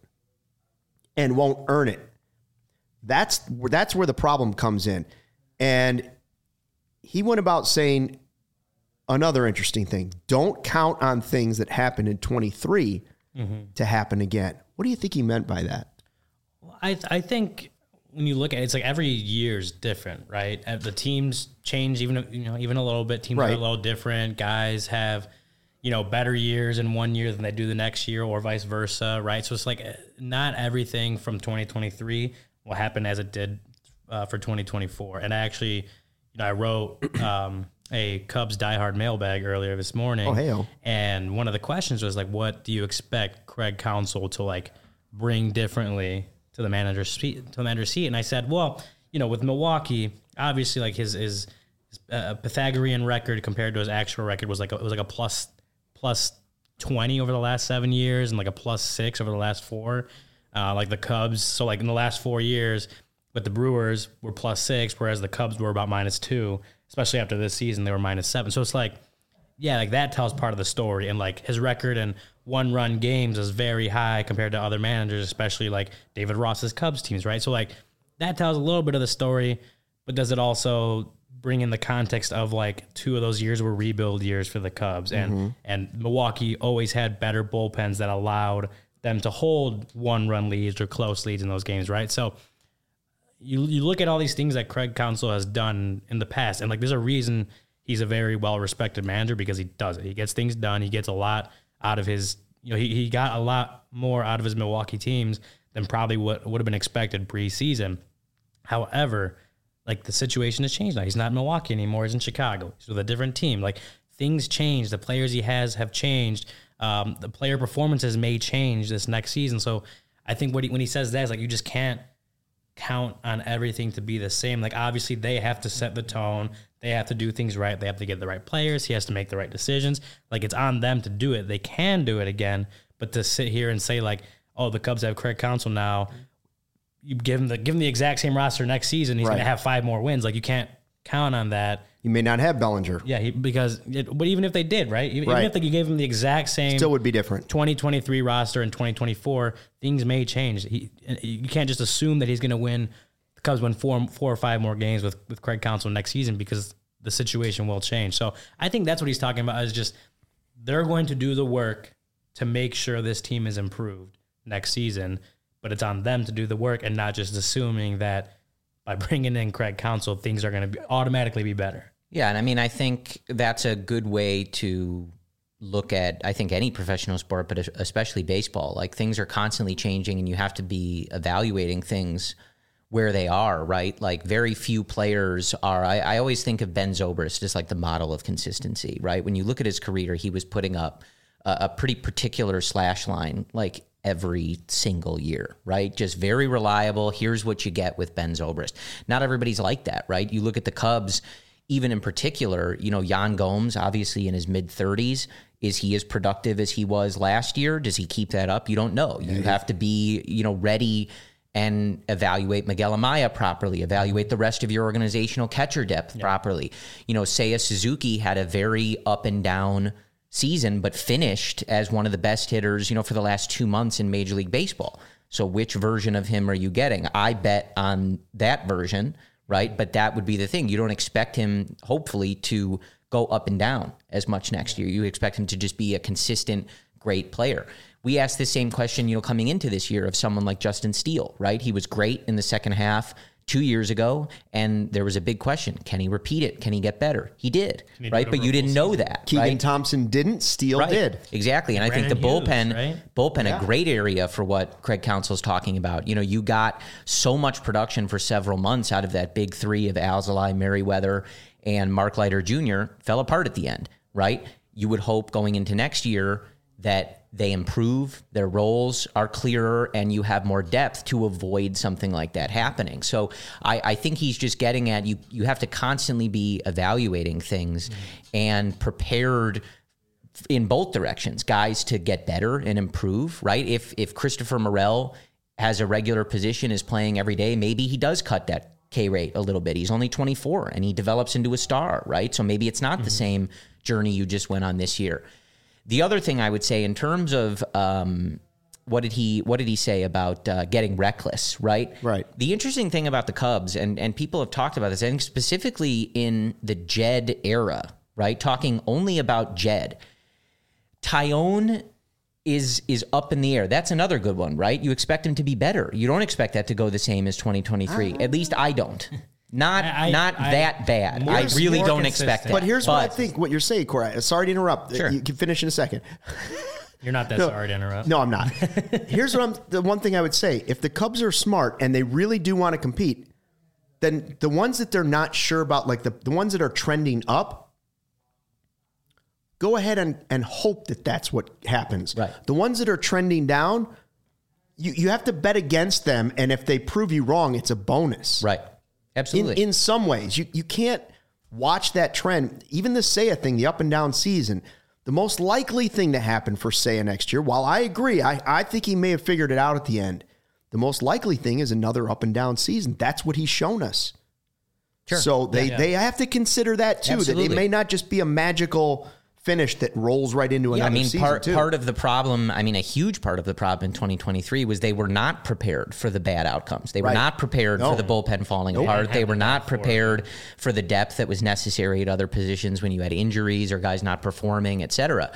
and won't earn it. That's where the problem comes in. And he went about saying another interesting thing: don't count on things that happened in 23 to happen again. What do you think he meant by that? Well, I think when you look at it, it's like every year's different, right? The teams change even a little bit. Teams are a little different. Guys have, better years in one year than they do the next year, or vice versa, right? So it's like not everything from 2023 will happen as it did for 2024. And actually, I wrote a Cubs diehard mailbag earlier this morning. Oh, hey-o. And one of the questions was like, what do you expect Craig Counsell to bring differently to the manager's seat? And I said, well, with Milwaukee, obviously his Pythagorean record compared to his actual record was a plus 20 over the last 7 years and like a plus 6 over the last 4. Like the Cubs, so in the last 4 years, but the Brewers were plus 6, whereas the Cubs were about -2. Especially after this season, they were -7. So it's like yeah, like that tells part of the story. And like his record in 1-run games is very high compared to other managers, especially like David Ross's Cubs teams, right? So like that tells a little bit of the story, but does it also bring in the context of like 2 of those years were rebuild years for the Cubs, and Milwaukee always had better bullpens that allowed them to hold 1-run leads or close leads in those games, right? So you look at all these things that Craig Counsell has done in the past, and like there's a reason he's a very well-respected manager, because he does it. He gets things done. He gets a lot out of his, he got a lot more out of his Milwaukee teams than probably what would have been expected preseason. However, like the situation has changed now. He's not in Milwaukee anymore. He's in Chicago. He's with a different team. Like things change. The players he has have changed. The player performances may change this next season. So I think when he says that, it's like you just can't count on everything to be the same. Like obviously they have to set the tone. They have to do things right. They have to get the right players. He has to make the right decisions. Like it's on them to do it. They can do it again, but to sit here and say like, oh, the Cubs have Craig Counsell now, you give him the exact same roster next season, he's going to have 5 more wins. Like you can't count on that. You may not have Bellinger. Yeah, but even if they did, right? Even if you gave him the exact same, still would be different. 2023 roster in 2024, things may change. You can't just assume that he's going to win. The Cubs win 4 or 5 more games with Craig Counsell next season, because the situation will change. So I think that's what he's talking about, is just they're going to do the work to make sure this team is improved next season, but it's on them to do the work and not just assuming that by bringing in Craig Counsell, things are going to automatically be better. Yeah, and I mean, I think that's a good way to look at, I think, any professional sport, but especially baseball. Like things are constantly changing, and you have to be evaluating things where they are, right? Like very few players are. I always think of Ben Zobrist as like the model of consistency, right? When you look at his career, he was putting up a pretty particular slash line, like every single year, right? Just very reliable. Here's what you get with Ben Zobrist. Not everybody's like that, right? You look at the Cubs, even in particular, Yan Gomes, obviously in his mid-30s. Is he as productive as he was last year? Does he keep that up? You don't know. You have to be, ready and evaluate Miguel Amaya properly, evaluate the rest of your organizational catcher depth properly. Seiya Suzuki had a very up and down season, but finished as one of the best hitters, for the last 2 months in Major League Baseball. So which version of him are you getting? I bet on that version, right? But that would be the thing. You don't expect him, hopefully, to go up and down as much next year. You expect him to just be a consistent, great player. We asked the same question, coming into this year of someone like Justin Steele, right? He was great in the second half 2 years ago, and there was a big question. Can he repeat it? Can he get better? He did, right? But you didn't know that. Keegan Thompson didn't. Steele did. Exactly. And I think the bullpen, a great area for what Craig Counsell's talking about. You got so much production for several months out of that big 3 of Alzolay, Merriweather, and Mark Leiter Jr. fell apart at the end, right? You would hope going into next year that they improve, their roles are clearer, and you have more depth to avoid something like that happening. So I think he's just getting at you have to constantly be evaluating things and prepared in both directions, guys to get better and improve, right? If Christopher Morel has a regular position, is playing every day, maybe he does cut that K rate a little bit. He's only 24 and he develops into a star, right? So maybe it's not the same journey you just went on this year. The other thing I would say in terms of what did he say about getting reckless, right? Right. The interesting thing about the Cubs, and people have talked about this, I think specifically in the Jed era, right? Talking only about Jed. Tyone is up in the air. That's another good one, right? You expect him to be better. You don't expect that to go the same as 2023. At least I don't. Not that bad. I really don't expect that. But here's what I think, what you're saying, Corey. Sorry to interrupt. Sure. You can finish in a second. You're not that sorry to interrupt. No, I'm not. Here's the one thing I would say. If the Cubs are smart and they really do want to compete, then the ones that they're not sure about, like the ones that are trending up, go ahead and hope that that's what happens. Right. The ones that are trending down, you have to bet against them, and if they prove you wrong, it's a bonus. Right. Absolutely. In some ways, you can't watch that trend. Even the Seiya thing, the up and down season, the most likely thing to happen for Seiya next year, while I agree, I think he may have figured it out at the end, the most likely thing is another up and down season. That's what he's shown us. Sure. So they have to consider that too, Absolutely. that it may not just be a magical finish that rolls right into another season part of the problem, a huge part of the problem in 2023 was they were not prepared for the bad outcomes. They were not prepared for the bullpen falling apart. They were not prepared for the depth that was necessary at other positions when you had injuries or guys not performing, et cetera.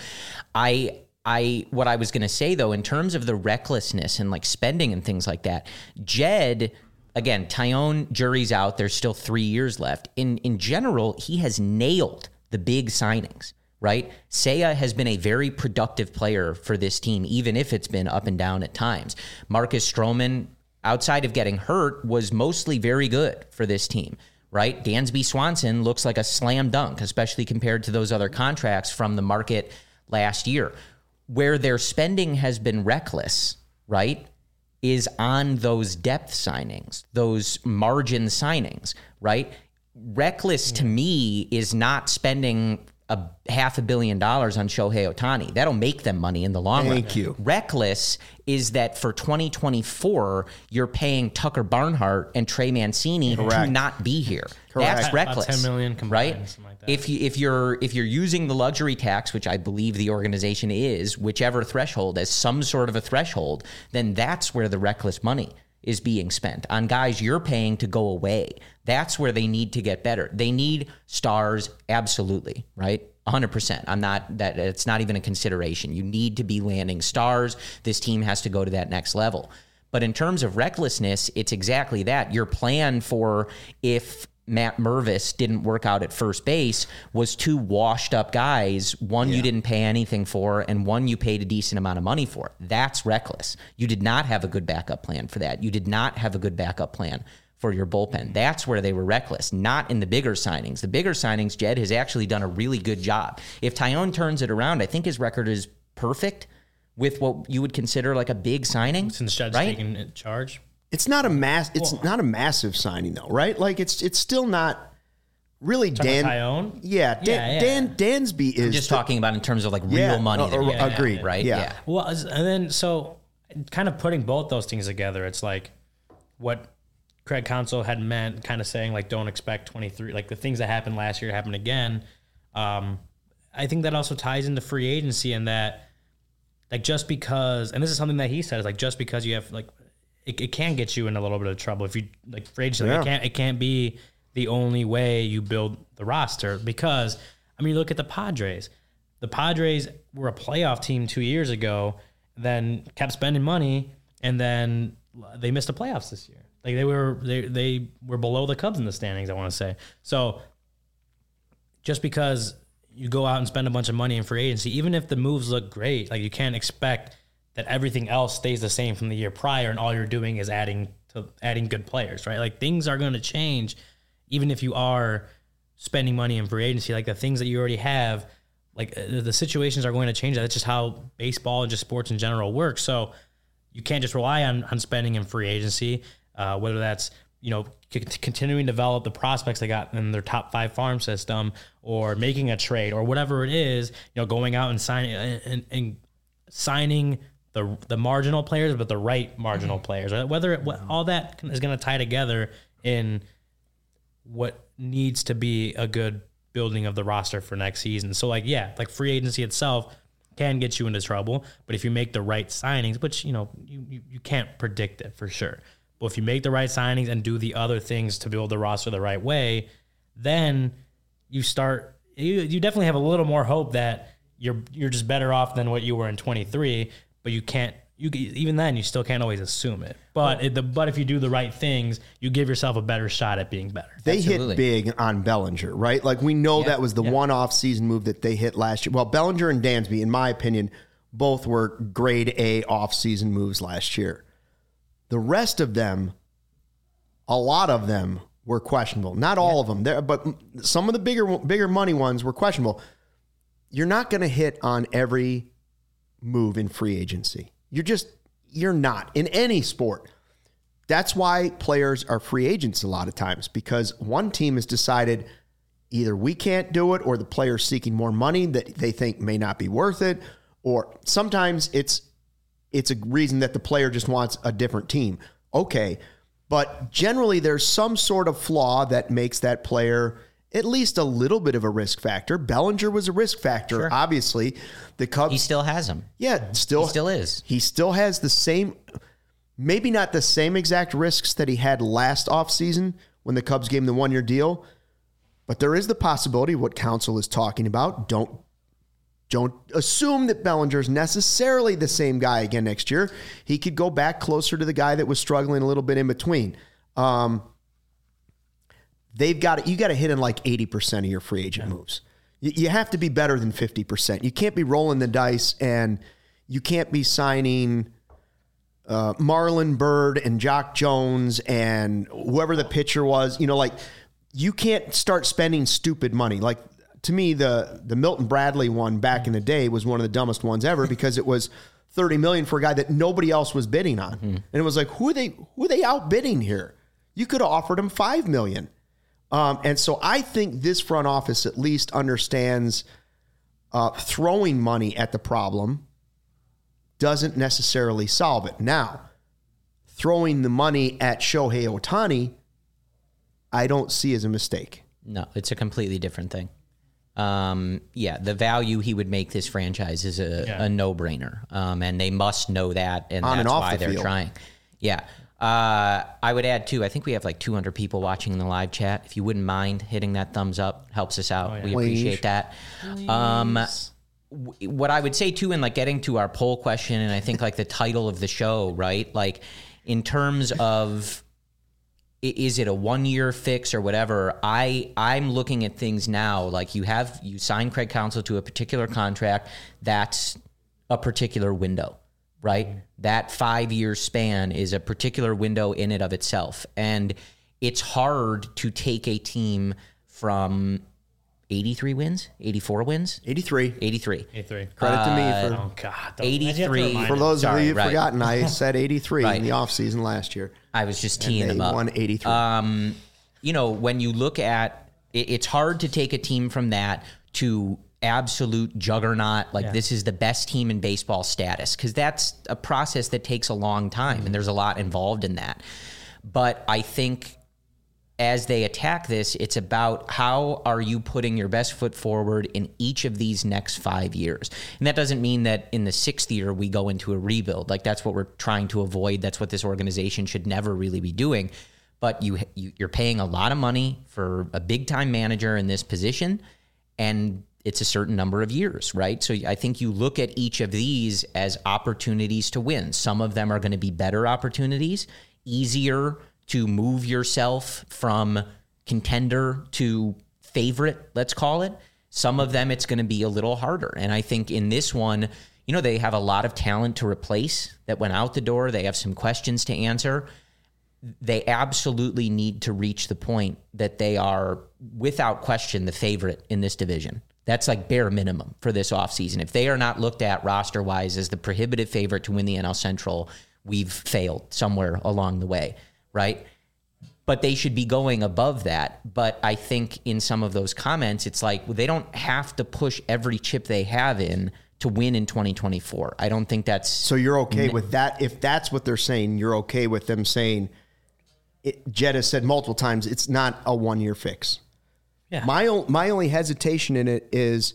What I was going to say, though, in terms of the recklessness and like spending and things like that, Jed, again, Taillon, jury's out. There's still 3 years left. In general, he has nailed the big signings, right? Seiya has been a very productive player for this team, even if it's been up and down at times. Marcus Stroman, outside of getting hurt, was mostly very good for this team, right? Dansby Swanson looks like a slam dunk, especially compared to those other contracts from the market last year. Where their spending has been reckless, right, is on those depth signings, those margin signings, right? Reckless to me is not spending $500 million on Shohei Ohtani. That'll make them money in the long run. Thank you. Reckless is that for 2024, you're paying Tucker Barnhart and Trey Mancini to not be here. Correct. That's reckless. About 10 million combined, right? something like that. If you're using the luxury tax, which I believe the organization is, whichever threshold as some sort of a threshold, then that's where the reckless money is being spent on guys you're paying to go away. That's where they need to get better. They need stars, absolutely, right? 100%. It's not even a consideration. You need to be landing stars. This team has to go to that next level. But in terms of recklessness, it's exactly that. Your plan for if Matt Mervis didn't work out at first base was 2 washed up guys, one you didn't pay anything for and one you paid a decent amount of money for. That's reckless. You did not have a good backup plan for that. You did not have a good backup plan for your bullpen. That's where they were reckless, not in the bigger signings. The bigger signings, Jed has actually done a really good job. If Taillon turns it around, I think his record is perfect with what you would consider like a big signing. Since Jed's right? taking charge. It's not a not a massive signing though, right? Like it's still not really Taillon? Dansby is I'm just talking about in terms of like real money. Agreed. Right? Yeah. Well, and then so kind of putting both those things together, it's like what Craig Counsell had meant, kind of saying like don't expect 23, like the things that happened last year happen again. I think that also ties into free agency and that like just because, and this is something that he said, is like just because you have like it can get you in a little bit of trouble if you like free agency. Like, it can't be the only way you build the roster because I mean look at the Padres. The Padres were a playoff team 2 years ago, then kept spending money, and then they missed the playoffs this year. Like they were below the Cubs in the standings, I want to say. So just because you go out and spend a bunch of money in free agency, even if the moves look great, like you can't expect that everything else stays the same from the year prior and all you're doing is adding good players, right? Like things are going to change even if you are spending money in free agency. Like the things that you already have, like the situations are going to change. That's just how baseball and just sports in general works. So you can't just rely on spending in free agency, whether that's, continuing to develop the prospects they got in their top 5 farm system or making a trade or whatever it is, going out and signing the marginal players, but the right marginal players, right? Whether all that is going to tie together in what needs to be a good building of the roster for next season. So like free agency itself can get you into trouble, but if you make the right signings, which, you can't predict it for sure. But if you make the right signings and do the other things to build the roster the right way, then you definitely have a little more hope that you're just better off than what you were in 23, but even then you still can't always assume it. But if you do the right things, you give yourself a better shot at being better. They hit big on Bellinger, right? Like we know that was the one off-season move that they hit last year. Well, Bellinger and Dansby, in my opinion, both were grade A off-season moves last year. The rest of them, a lot of them were questionable. Not all of them, but some of the bigger money ones were questionable. You're not going to hit on every move in free agency. You're not in any sport. That's why players are free agents a lot of times, because one team has decided either we can't do it or the player's seeking more money that they think may not be worth it, or sometimes it's a reason that the player just wants a different team. Okay, but generally there's some sort of flaw that makes that player at least a little bit of a risk factor. Bellinger was a risk factor. Sure. Obviously, the Cubs. He still has him. Yeah, He still is. He still has the same, maybe not the same exact risks that he had last offseason when the Cubs gave him the 1-year deal, but there is the possibility of what Counsell is talking about. Don't assume that Bellinger is necessarily the same guy again next year. He could go back closer to the guy that was struggling a little bit in between. You got to hit in like 80% of your free agent moves. You have to be better than 50%. You can't be rolling the dice, and you can't be signing Marlon Byrd and Jock Jones and whoever the pitcher was. You can't start spending stupid money. Like, to me, the Milton Bradley one back in the day was one of the dumbest ones ever because it was $30 million for a guy that nobody else was bidding on. And it was like, who are they outbidding here? You could have offered him $5 million. And so I think this front office at least understands throwing money at the problem doesn't necessarily solve it. Now, throwing the money at Shohei Ohtani, I don't see as a mistake. No, it's a completely different thing. The value he would make this franchise is a no-brainer. And they must know that, and On that's and off why the they're field. trying. Yeah. I would add, too, I think we have like 200 people watching in the live chat. If you wouldn't mind hitting that thumbs up, helps us out. We appreciate that. What I would say, too, in like getting to our poll question, and I think like the title of the show, right? Like in terms of, is it a 1-year fix or whatever? I'm looking at things now. Like you sign Craig Counsell to a particular contract. That's a particular window, right? That 5-year span is a particular window in and of itself. And it's hard to take a team from 83 wins, 84 wins, 83. 83. Credit to me for Oh God, 83. For those of you who've right. forgotten, I said 83 Right. in the offseason last year. I was just And teeing they them up. won 83. When you look at it's hard to take a team from that to absolute juggernaut, like this is the best team in baseball status, because that's a process that takes a long time, and there's a lot involved in that. But I think as they attack this, it's about how are you putting your best foot forward in each of these next 5 years. And that doesn't mean that in the 6th year we go into a rebuild. Like that's what we're trying to avoid. That's what this organization should never really be doing. But you're paying a lot of money for a big-time manager in this position, and it's a certain number of years, right? So I think you look at each of these as opportunities to win. Some of them are going to be better opportunities, easier to move yourself from contender to favorite, let's call it. Some of them, it's going to be a little harder. And I think in this one, they have a lot of talent to replace that went out the door. They have some questions to answer. They absolutely need to reach the point that they are, without question, the favorite in this division. That's like bare minimum for this offseason. If they are not looked at roster-wise as the prohibitive favorite to win the NL Central, we've failed somewhere along the way. Right? But they should be going above that. But I think in some of those comments, it's like they don't have to push every chip they have in to win in 2024. I don't think that's... So you're okay with that? If that's what they're saying, you're okay with them saying, Jed has said multiple times, it's not a 1-year fix. Yeah. My only hesitation in it is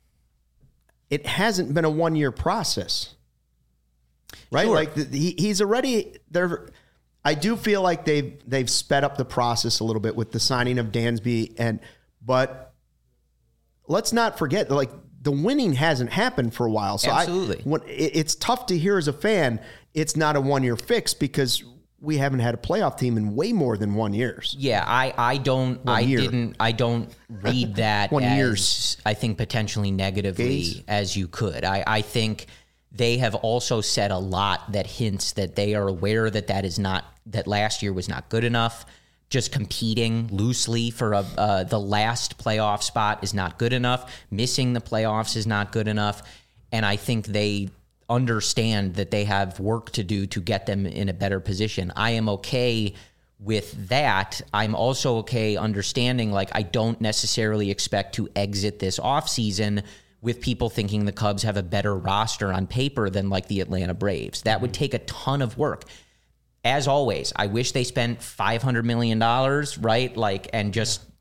it hasn't been a 1-year process. Right? Sure. Like he's already... I do feel like they've sped up the process a little bit with the signing of Dansby, but let's not forget, like, the winning hasn't happened for a while. So Absolutely. It's tough to hear as a fan, it's not a 1-year fix because we haven't had a playoff team in way more than 1 year. Yeah, I don't read that 1 as years. I think potentially negatively as you could. I think they have also said a lot that hints that they are aware that last year was not good enough. Just competing loosely for the last playoff spot is not good enough. Missing the playoffs is not good enough. And I think they understand that they have work to do to get them in a better position. I am okay with that. I'm also okay understanding, like, I don't necessarily expect to exit this offseason with people thinking the Cubs have a better roster on paper than like the Atlanta Braves. That would take a ton of work. As always, I wish they spent $500 million, right? Like, and just,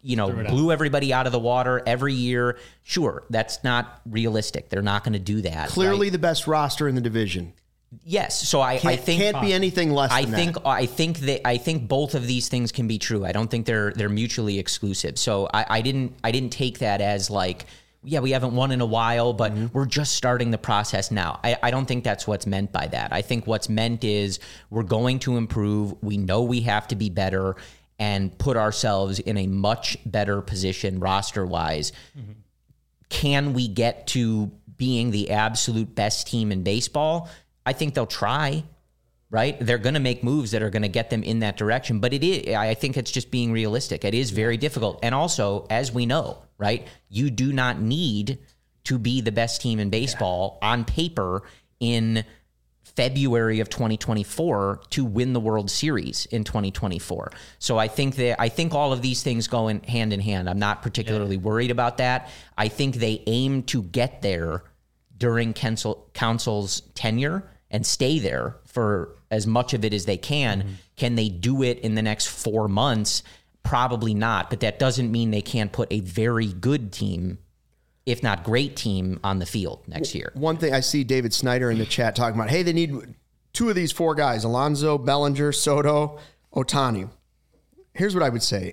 blew everybody out of the water every year. Sure, that's not realistic. They're not going to do that. Clearly the best roster in the division. Yes, so I think can't be anything less than that. I think both of these things can be true. I don't think they're mutually exclusive. So I didn't take that as like, yeah, we haven't won in a while, but we're just starting the process now. I don't think that's what's meant by that. I think what's meant is we're going to improve. We know we have to be better and put ourselves in a much better position roster-wise. Mm-hmm. Can we get to being the absolute best team in baseball? I think they'll try, right? They're going to make moves that are going to get them in that direction. But I think it's just being realistic. It is very difficult. And also, as we know, right, you do not need to be the best team in baseball on paper in February of 2024 to win the World Series in 2024. So I think all of these things go hand in hand. I'm not particularly worried about that. I think they aim to get there during Counsell's tenure and stay there for as much of it as they can. Mm-hmm. Can they do it in the next 4 months? Probably not, but that doesn't mean they can't put a very good team, if not great team, on the field next year. One thing I see David Snyder in the chat talking about, hey, they need 2 of these 4 guys, Alonso, Bellinger, Soto, Ohtani. Here's what I would say.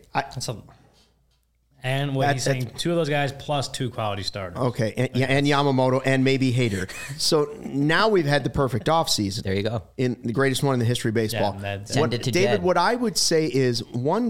And what he's saying, 2 of those guys plus 2 quality starters. Okay, and Yamamoto and maybe Hader. So now we've had the perfect offseason. There you go. In the greatest one in the history of baseball. Send it to David, Jed. what I would say is one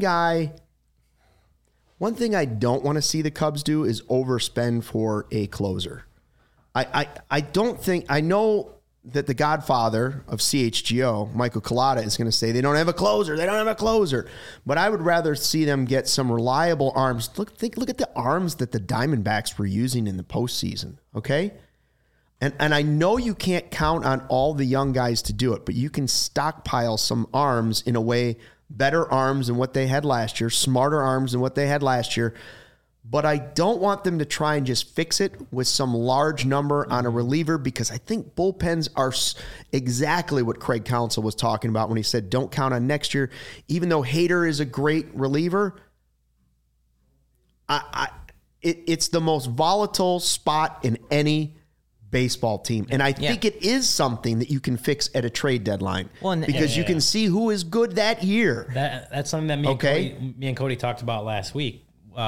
thing I don't want to see the Cubs do is overspend for a closer. I don't think, I know that the godfather of CHGO, Michael Collada, is going to say they don't have a closer. They don't have a closer. But I would rather see them get some reliable arms. Look at the arms that the Diamondbacks were using in the postseason, okay? And I know you can't count on all the young guys to do it, but you can stockpile some arms in a way, better arms than what they had last year, smarter arms than what they had last year. But I don't want them to try and just fix it with some large number on a reliever, because I think bullpens are exactly what Craig Counsell was talking about when he said don't count on next year. Even though Hader is a great reliever, it's the most volatile spot in any baseball team. And I think it is something that you can fix at a trade deadline, because you can see who is good that year. That's something that me and Cody talked about last week.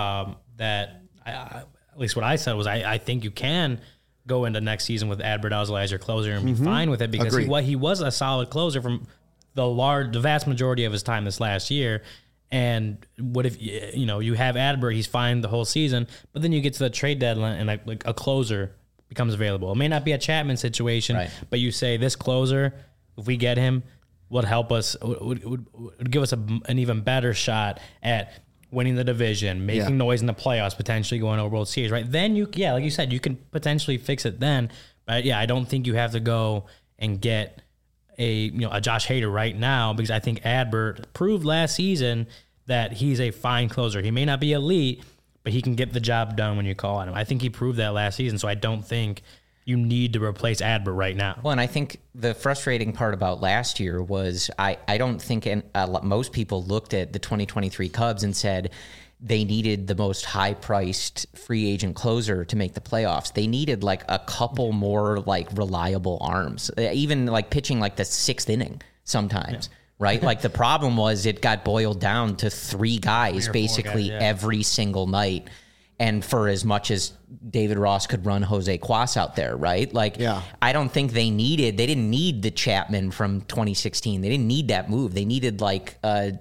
At least what I said was I think you can go into next season with Adbert Alzolay as your closer and be fine with it, because he was a solid closer from the vast majority of his time this last year. And what if you have Adbert, he's fine the whole season, but then you get to the trade deadline and like a closer becomes available. It may not be a Chapman situation, right, but you say this closer, if we get him, would help us, would give us an even better shot at winning the division, making noise in the playoffs, potentially going over World Series, right? Then like you said, you can potentially fix it then. But I don't think you have to go and get a Josh Hader right now, because I think Adbert proved last season that he's a fine closer. He may not be elite, but he can get the job done when you call on him. I think he proved that last season, so I don't think you need to replace Adbert right now. Well, and I think the frustrating part about last year was I don't think most people looked at the 2023 Cubs and said they needed the most high-priced free agent closer to make the playoffs. They needed like a couple more like reliable arms, even like pitching like the 6th inning sometimes. Yeah. Right? Like the problem was it got boiled down to 3 guys basically every single night. And for as much as David Ross could run Jose Cuas out there, right? Like, I don't think they didn't need the Chapman from 2016. They didn't need that move. They needed like a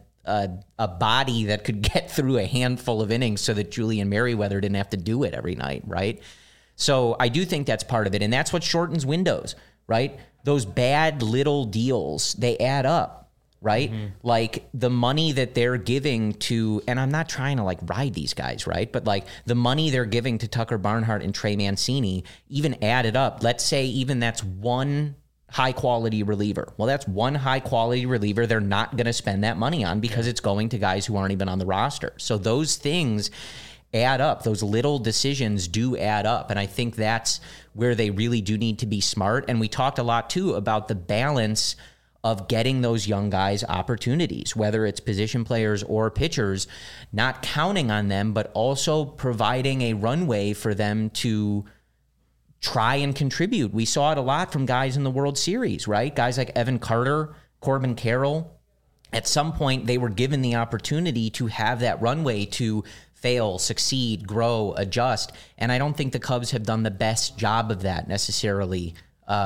body that could get through a handful of innings so that Julian Merryweather didn't have to do it every night, right? So I do think that's part of it. And that's what shortens windows, right? Those bad little deals, they add up. Right? Mm-hmm. Like the money that they're giving to, and I'm not trying to like ride these guys, right? But like the money they're giving to Tucker Barnhart and Trey Mancini, even added up, let's say even that's one high quality reliever. Well, that's one high quality reliever they're not going to spend that money on because it's going to guys who aren't even on the roster. So those things add up. Those little decisions do add up. And I think that's where they really do need to be smart. And we talked a lot too about the balance of getting those young guys opportunities, whether it's position players or pitchers, not counting on them, but also providing a runway for them to try and contribute. We saw it a lot from guys in the World Series, right? Guys like Evan Carter, Corbin Carroll. At some point, they were given the opportunity to have that runway to fail, succeed, grow, adjust. And I don't think the Cubs have done the best job of that necessarily,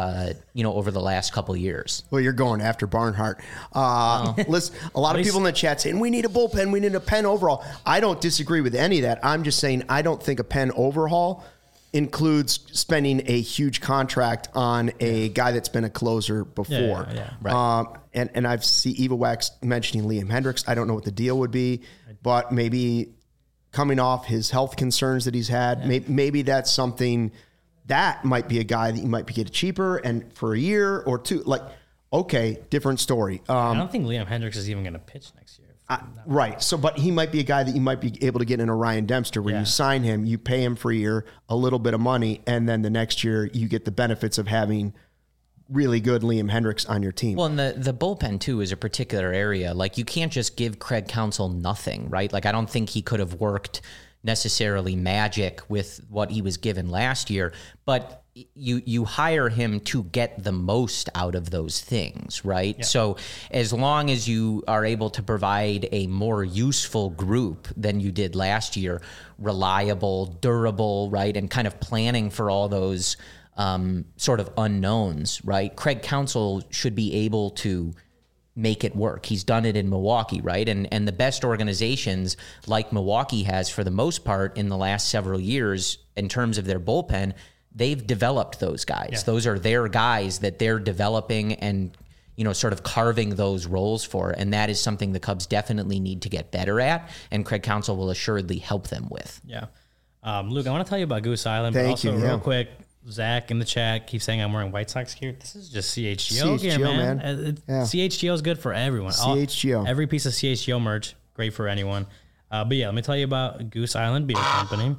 over the last couple of years. Well, you're going after Barnhart. Listen, a lot of people in the chat saying, we need a bullpen, we need a pen overhaul. I don't disagree with any of that. I'm just saying I don't think a pen overhaul includes spending a huge contract on a guy that's been a closer before. Right. And I've seen Eva Wax mentioning Liam Hendriks. I don't know what the deal would be, but maybe coming off his health concerns that he's had, maybe that's something that might be a guy that you might be getting cheaper and for a year or two. Like, okay, different story. I don't think Liam Hendriks is even going to pitch next year. Right. So, but he might be a guy that you might be able to get in a Ryan Dempster where you sign him, you pay him for a year, a little bit of money, and then the next year you get the benefits of having really good Liam Hendriks on your team. Well, and the bullpen, too, is a particular area. Like, you can't just give Craig Counsell nothing, right? Like, I don't think he could have worked necessarily magic with what he was given last year, but you hire him to get the most out of those things, right? Yeah. So as long as you are able to provide a more useful group than you did last year, reliable, durable, right, and kind of planning for all those sort of unknowns, right? Craig Counsell should be able to make it work. He's done it in Milwaukee, right? And the best organizations like Milwaukee has for the most part in the last several years in terms of their bullpen, they've developed those guys. Yeah. Those are their guys that they're developing and, sort of carving those roles for. And that is something the Cubs definitely need to get better at. And Craig Counsell will assuredly help them with. Yeah. Luke, I want to tell you about Goose Island, but also real quick, Zach in the chat keeps saying I'm wearing White Sox gear. This is just CHGO gear, man. CHGO is good for everyone. CHGO. Every piece of CHGO merch, great for anyone. But yeah, let me tell you about Goose Island Beer Company.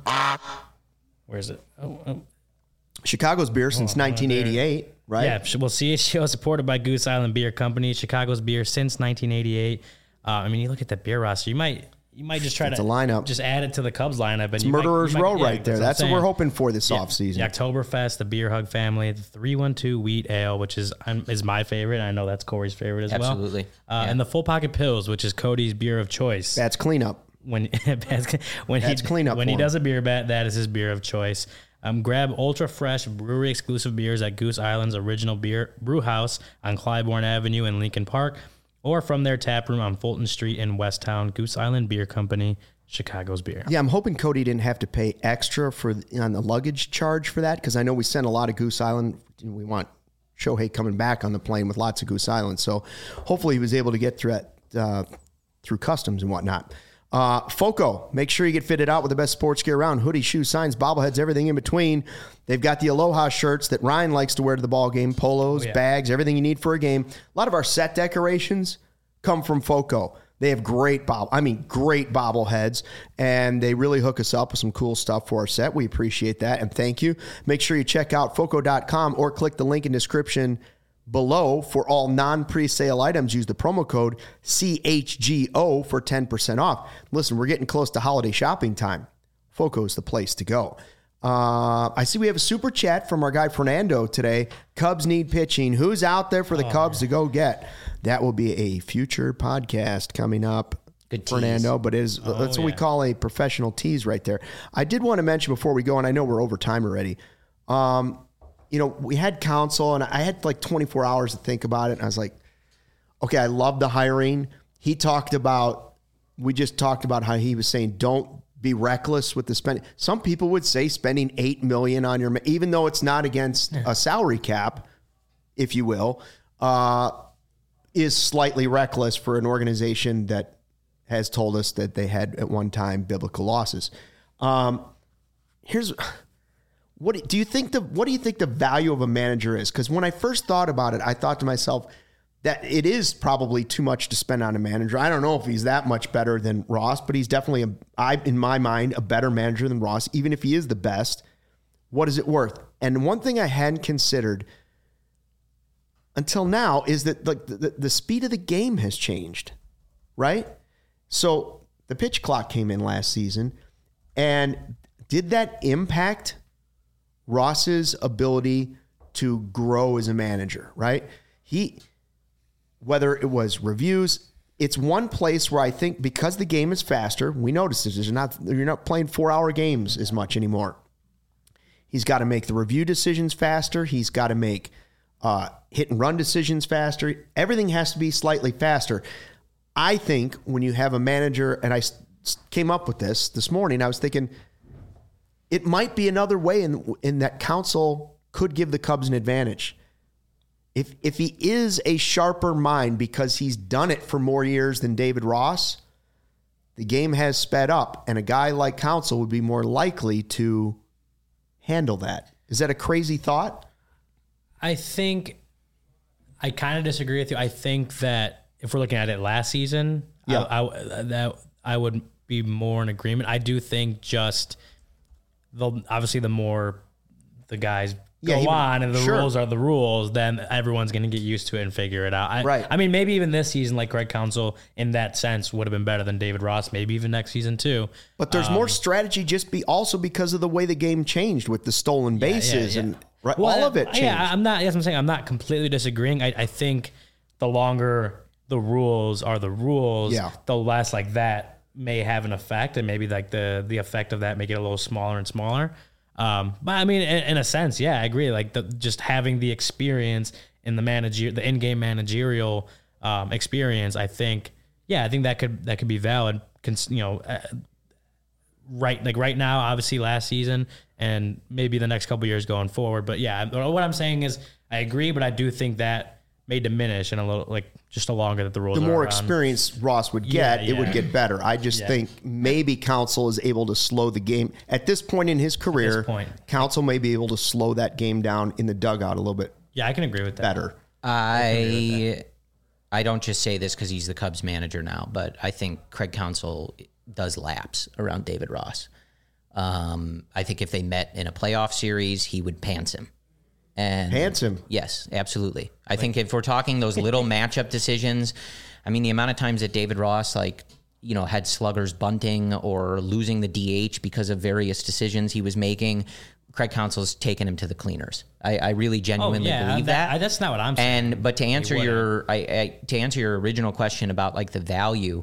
Where is it? Chicago's beer since 1988, right? Yeah, well, CHGO is supported by Goose Island Beer Company. Chicago's beer since 1988. You look at that beer roster, you might just try to lineup. Just add it to the Cubs lineup. And it's Murderer's Row right there. That's what we're hoping for this offseason. The Oktoberfest, the Beer Hug family, the 312 Wheat Ale, which is my favorite. I know that's Corey's favorite as well. Absolutely. And the Full Pocket Pills, which is Cody's beer of choice. That's cleanup. When he does a beer bet, that is his beer of choice. Grab ultra fresh brewery exclusive beers at Goose Island's original brew house on Clybourne Avenue in Lincoln Park, or from their tap room on Fulton Street in Westtown. Goose Island Beer Company, Chicago's beer. Yeah, I'm hoping Cody didn't have to pay extra on the luggage charge for that, because I know we sent a lot of Goose Island. We want Shohei coming back on the plane with lots of Goose Island, so hopefully he was able to get through that through customs and whatnot. Foco, make sure you get fitted out with the best sports gear around. Hoodies, shoes, signs, bobbleheads, everything in between. They've got the Aloha shirts that Ryan likes to wear to the ball game, polos, bags, everything you need for a game. A lot of our set decorations come from Foco. They have great bobbleheads, and they really hook us up with some cool stuff for our set. We appreciate that, and thank you. Make sure you check out Foco.com or click the link in description below for all non-presale items. Use the promo code CHGO for 10% off. Listen, we're getting close to holiday shopping time. Foco is the place to go. I see we have a super chat from our guy Fernando today. Cubs need pitching. Who's out there for the Cubs to go get? That will be a future podcast coming up. Good tease. Fernando, but that's what we call a professional tease right there. I did want to mention before we go, and I know we're over time already, we had Counsell, and I had like 24 hours to think about it. And I was like, okay, I love the hiring. We just talked about how he was saying, don't be reckless with the spending. Some people would say spending $8 million on your, even though it's not against a salary cap, if you will, is slightly reckless for an organization that has told us that they had at one time biblical losses. What do you think the value of a manager is? Because when I first thought about it, I thought to myself that it is probably too much to spend on a manager. I don't know if he's that much better than Ross, but he's definitely, in my mind, a better manager than Ross, even if he is the best. What is it worth? And one thing I hadn't considered, until now is that like the speed of the game has changed, right? So the pitch clock came in last season, and did that impact Ross's ability to grow as a manager, right? Whether it was reviews, it's one place where I think because the game is faster, we noticed this, you're not playing 4-hour games as much anymore. He's got to make the review decisions faster. He's got to make hit and run decisions faster. Everything has to be slightly faster. I think when you have a manager, and I came up with this morning, I was thinking it might be another way in that Counsell could give the Cubs an advantage. If he is a sharper mind because he's done it for more years than David Ross, the game has sped up, and a guy like Counsell would be more likely to handle that. Is that a crazy thought? I think I kind of disagree with you. I think that if we're looking at it last season, I would be more in agreement. I do think just obviously the more the guys go on and the rules are the rules, then everyone's going to get used to it and figure it out. I mean, maybe even this season, like Craig Counsell in that sense would have been better than David Ross, maybe even next season too. But there's more strategy also because of the way the game changed with the stolen bases and all of it changed. Yeah, I'm saying I'm not completely disagreeing. I think the longer the rules are the rules, the less like that may have an effect, and maybe like the effect of that make it a little smaller and smaller. But I mean, in a sense, I agree. Like just having the experience in the in-game managerial experience, I think that could be valid. Right now, obviously last season, and maybe the next couple years going forward. But what I'm saying is, I agree, but I do think that may diminish in a little just the longer that the rules. The more experience Ross would get, it would get better. I just think maybe Counsell is able to slow the game at this point in his career. Counsell may be able to slow that game down in the dugout a little bit. Yeah, I can agree with that. Better. I don't just say this because he's the Cubs manager now, but I think Craig Counsell does lapse around David Ross. I think if they met in a playoff series, he would pants him. Pants him? Yes, absolutely. I think if we're talking those little matchup decisions, I mean, the amount of times that David Ross, had sluggers bunting or losing the DH because of various decisions he was making, Craig Counsell's taken him to the cleaners. I really genuinely believe that. That's not what I'm saying. But to answer your original question about the value,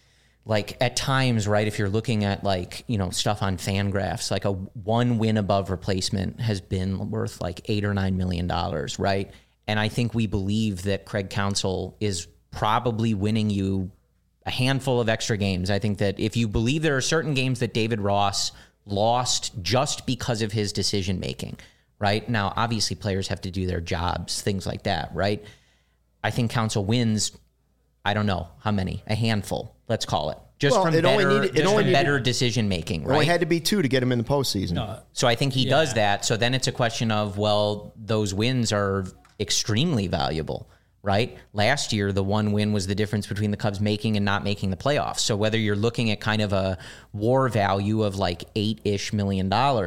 at times, right, if you're looking at stuff on FanGraphs, a one win above replacement has been worth $8 or $9 million, right? And I think we believe that Craig Counsell is probably winning you a handful of extra games. I think that if you believe there are certain games that David Ross lost just because of his decision making, right? Now, obviously, players have to do their jobs, things like that, right? I think Counsell wins, I don't know how many, a handful, let's call it. From better decision making, right? It only had to be 2 to get him in the postseason. So I think he does that. So then it's a question of, those wins are extremely valuable, right? Last year, the one win was the difference between the Cubs making and not making the playoffs. So whether you're looking at kind of a WAR value of $8-ish million,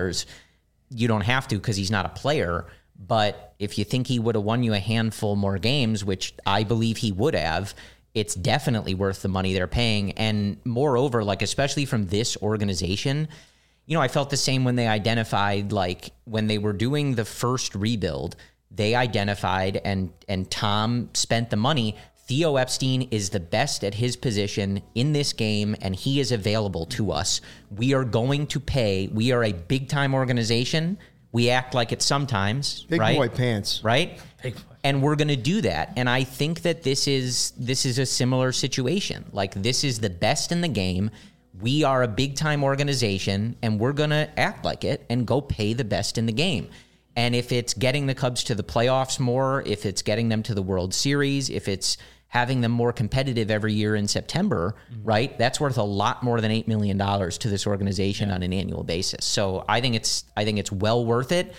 you don't have to because he's not a player. But if you think he would have won you a handful more games, which I believe he would have, it's definitely worth the money they're paying. And moreover, especially from this organization, I felt the same when they identified, when they were doing the first rebuild, they identified and Tom spent the money. Theo Epstein is the best at his position in this game, and he is available to us. We are going to pay. We are a big-time organization. We act like it sometimes, Big right? boy pants. Right? And we're going to do that. And I think that this is a similar situation. This is the best in the game. We are a big-time organization, and we're going to act like it and go pay the best in the game. And if it's getting the Cubs to the playoffs more, if it's getting them to the World Series, if it's having them more competitive every year in September, right? That's worth a lot more than $8 million to this organization on an annual basis. So I think it's well worth it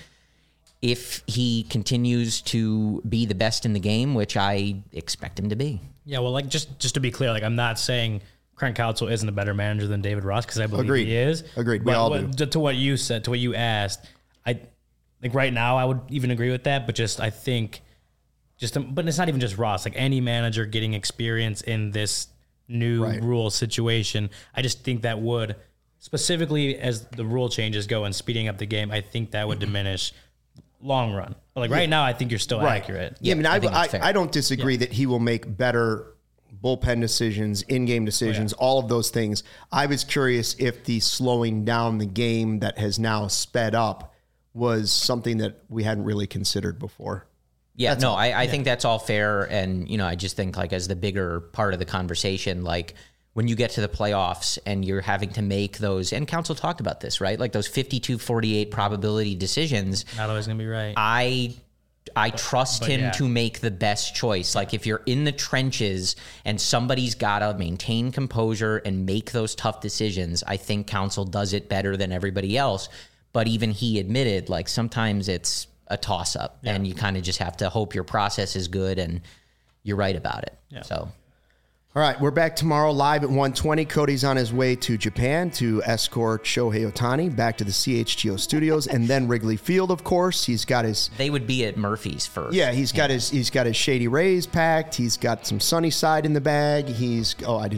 if he continues to be the best in the game, which I expect him to be. Yeah, well, just to be clear, I'm not saying Craig Counsell isn't a better manager than David Ross, because I believe he is. Agreed. We all do. To what you said, to what you asked, I think right now I would even agree with that, but just I think but it's not even just Ross. Like any manager getting experience in this new rule situation, I just think that would, specifically as the rule changes go and speeding up the game, I think that would diminish long run. But like right now, I think you're still accurate. Yeah, I mean, I don't disagree that he will make better bullpen decisions, in-game decisions, all of those things. I was curious if the slowing down the game that has now sped up was something that we hadn't really considered before. Yeah, I think that's all fair. And, you know, I just think like as the bigger part of the conversation, like when you get to the playoffs and you're having to make those, and Council talked about this, right? Like those 52-48 probability decisions. Not always going to be right. I trust him to make the best choice. Like if you're in the trenches and somebody's got to maintain composure and make those tough decisions, I think Council does it better than everybody else. But even he admitted, like sometimes it's a toss-up and you kind of just have to hope your process is good and you're right about it. Yeah. So. All right, we're back tomorrow live at 1:20. Cody's on his way to Japan to escort Shohei Ohtani back to the CHGO studios and then Wrigley Field, of course. He's got his... They would be at Murphy's first. Yeah, he's got his Shady Rays packed. He's got some Sunnyside in the bag. He's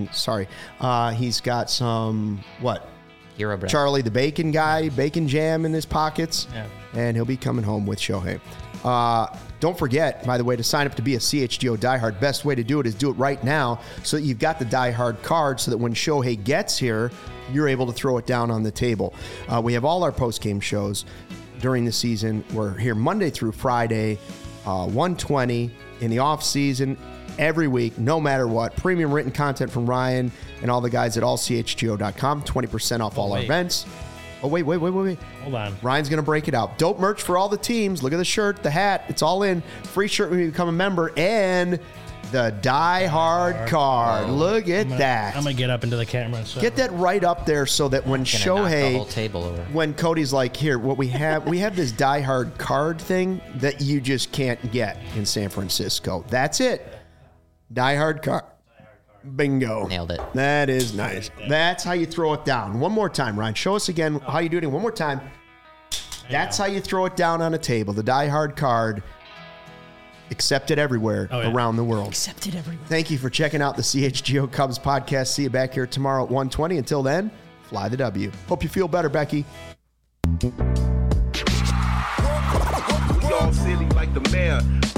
got some, what? Hero Bread. Charlie the Bacon guy, bacon jam in his pockets. Yeah. And he'll be coming home with Shohei. Don't forget, by the way, to sign up to be a CHGO diehard. Best way to do it is do it right now so that you've got the diehard card so that when Shohei gets here, you're able to throw it down on the table. We have all our post-game shows during the season. We're here Monday through Friday, 1:20 in the off-season, every week, no matter what. Premium written content from Ryan and all the guys at allchgo.com. 20% off all our events. Oh, wait. Hold on. Ryan's going to break it out. Dope merch for all the teams. Look at the shirt, the hat. It's all in. Free shirt when you become a member. And the Die Hard card. Look at that. I'm going to get up into the camera. So. Get that right up there so that when Shohei, the whole table over. When Cody's like, here, what we have this Die Hard card thing that you just can't get in San Francisco. That's it. Die Hard card. Bingo. Nailed it. That is nice. That's how you throw it down. One more time, Ryan. Show us again how you do it. One more time. That's how you throw it down on a table. The Die Hard card. Accepted everywhere around the world. Accepted everywhere. Thank you for checking out the CHGO Cubs podcast. See you back here tomorrow at 1:20. Until then, fly the W. Hope you feel better, Becky. Y'all silly like the mayor.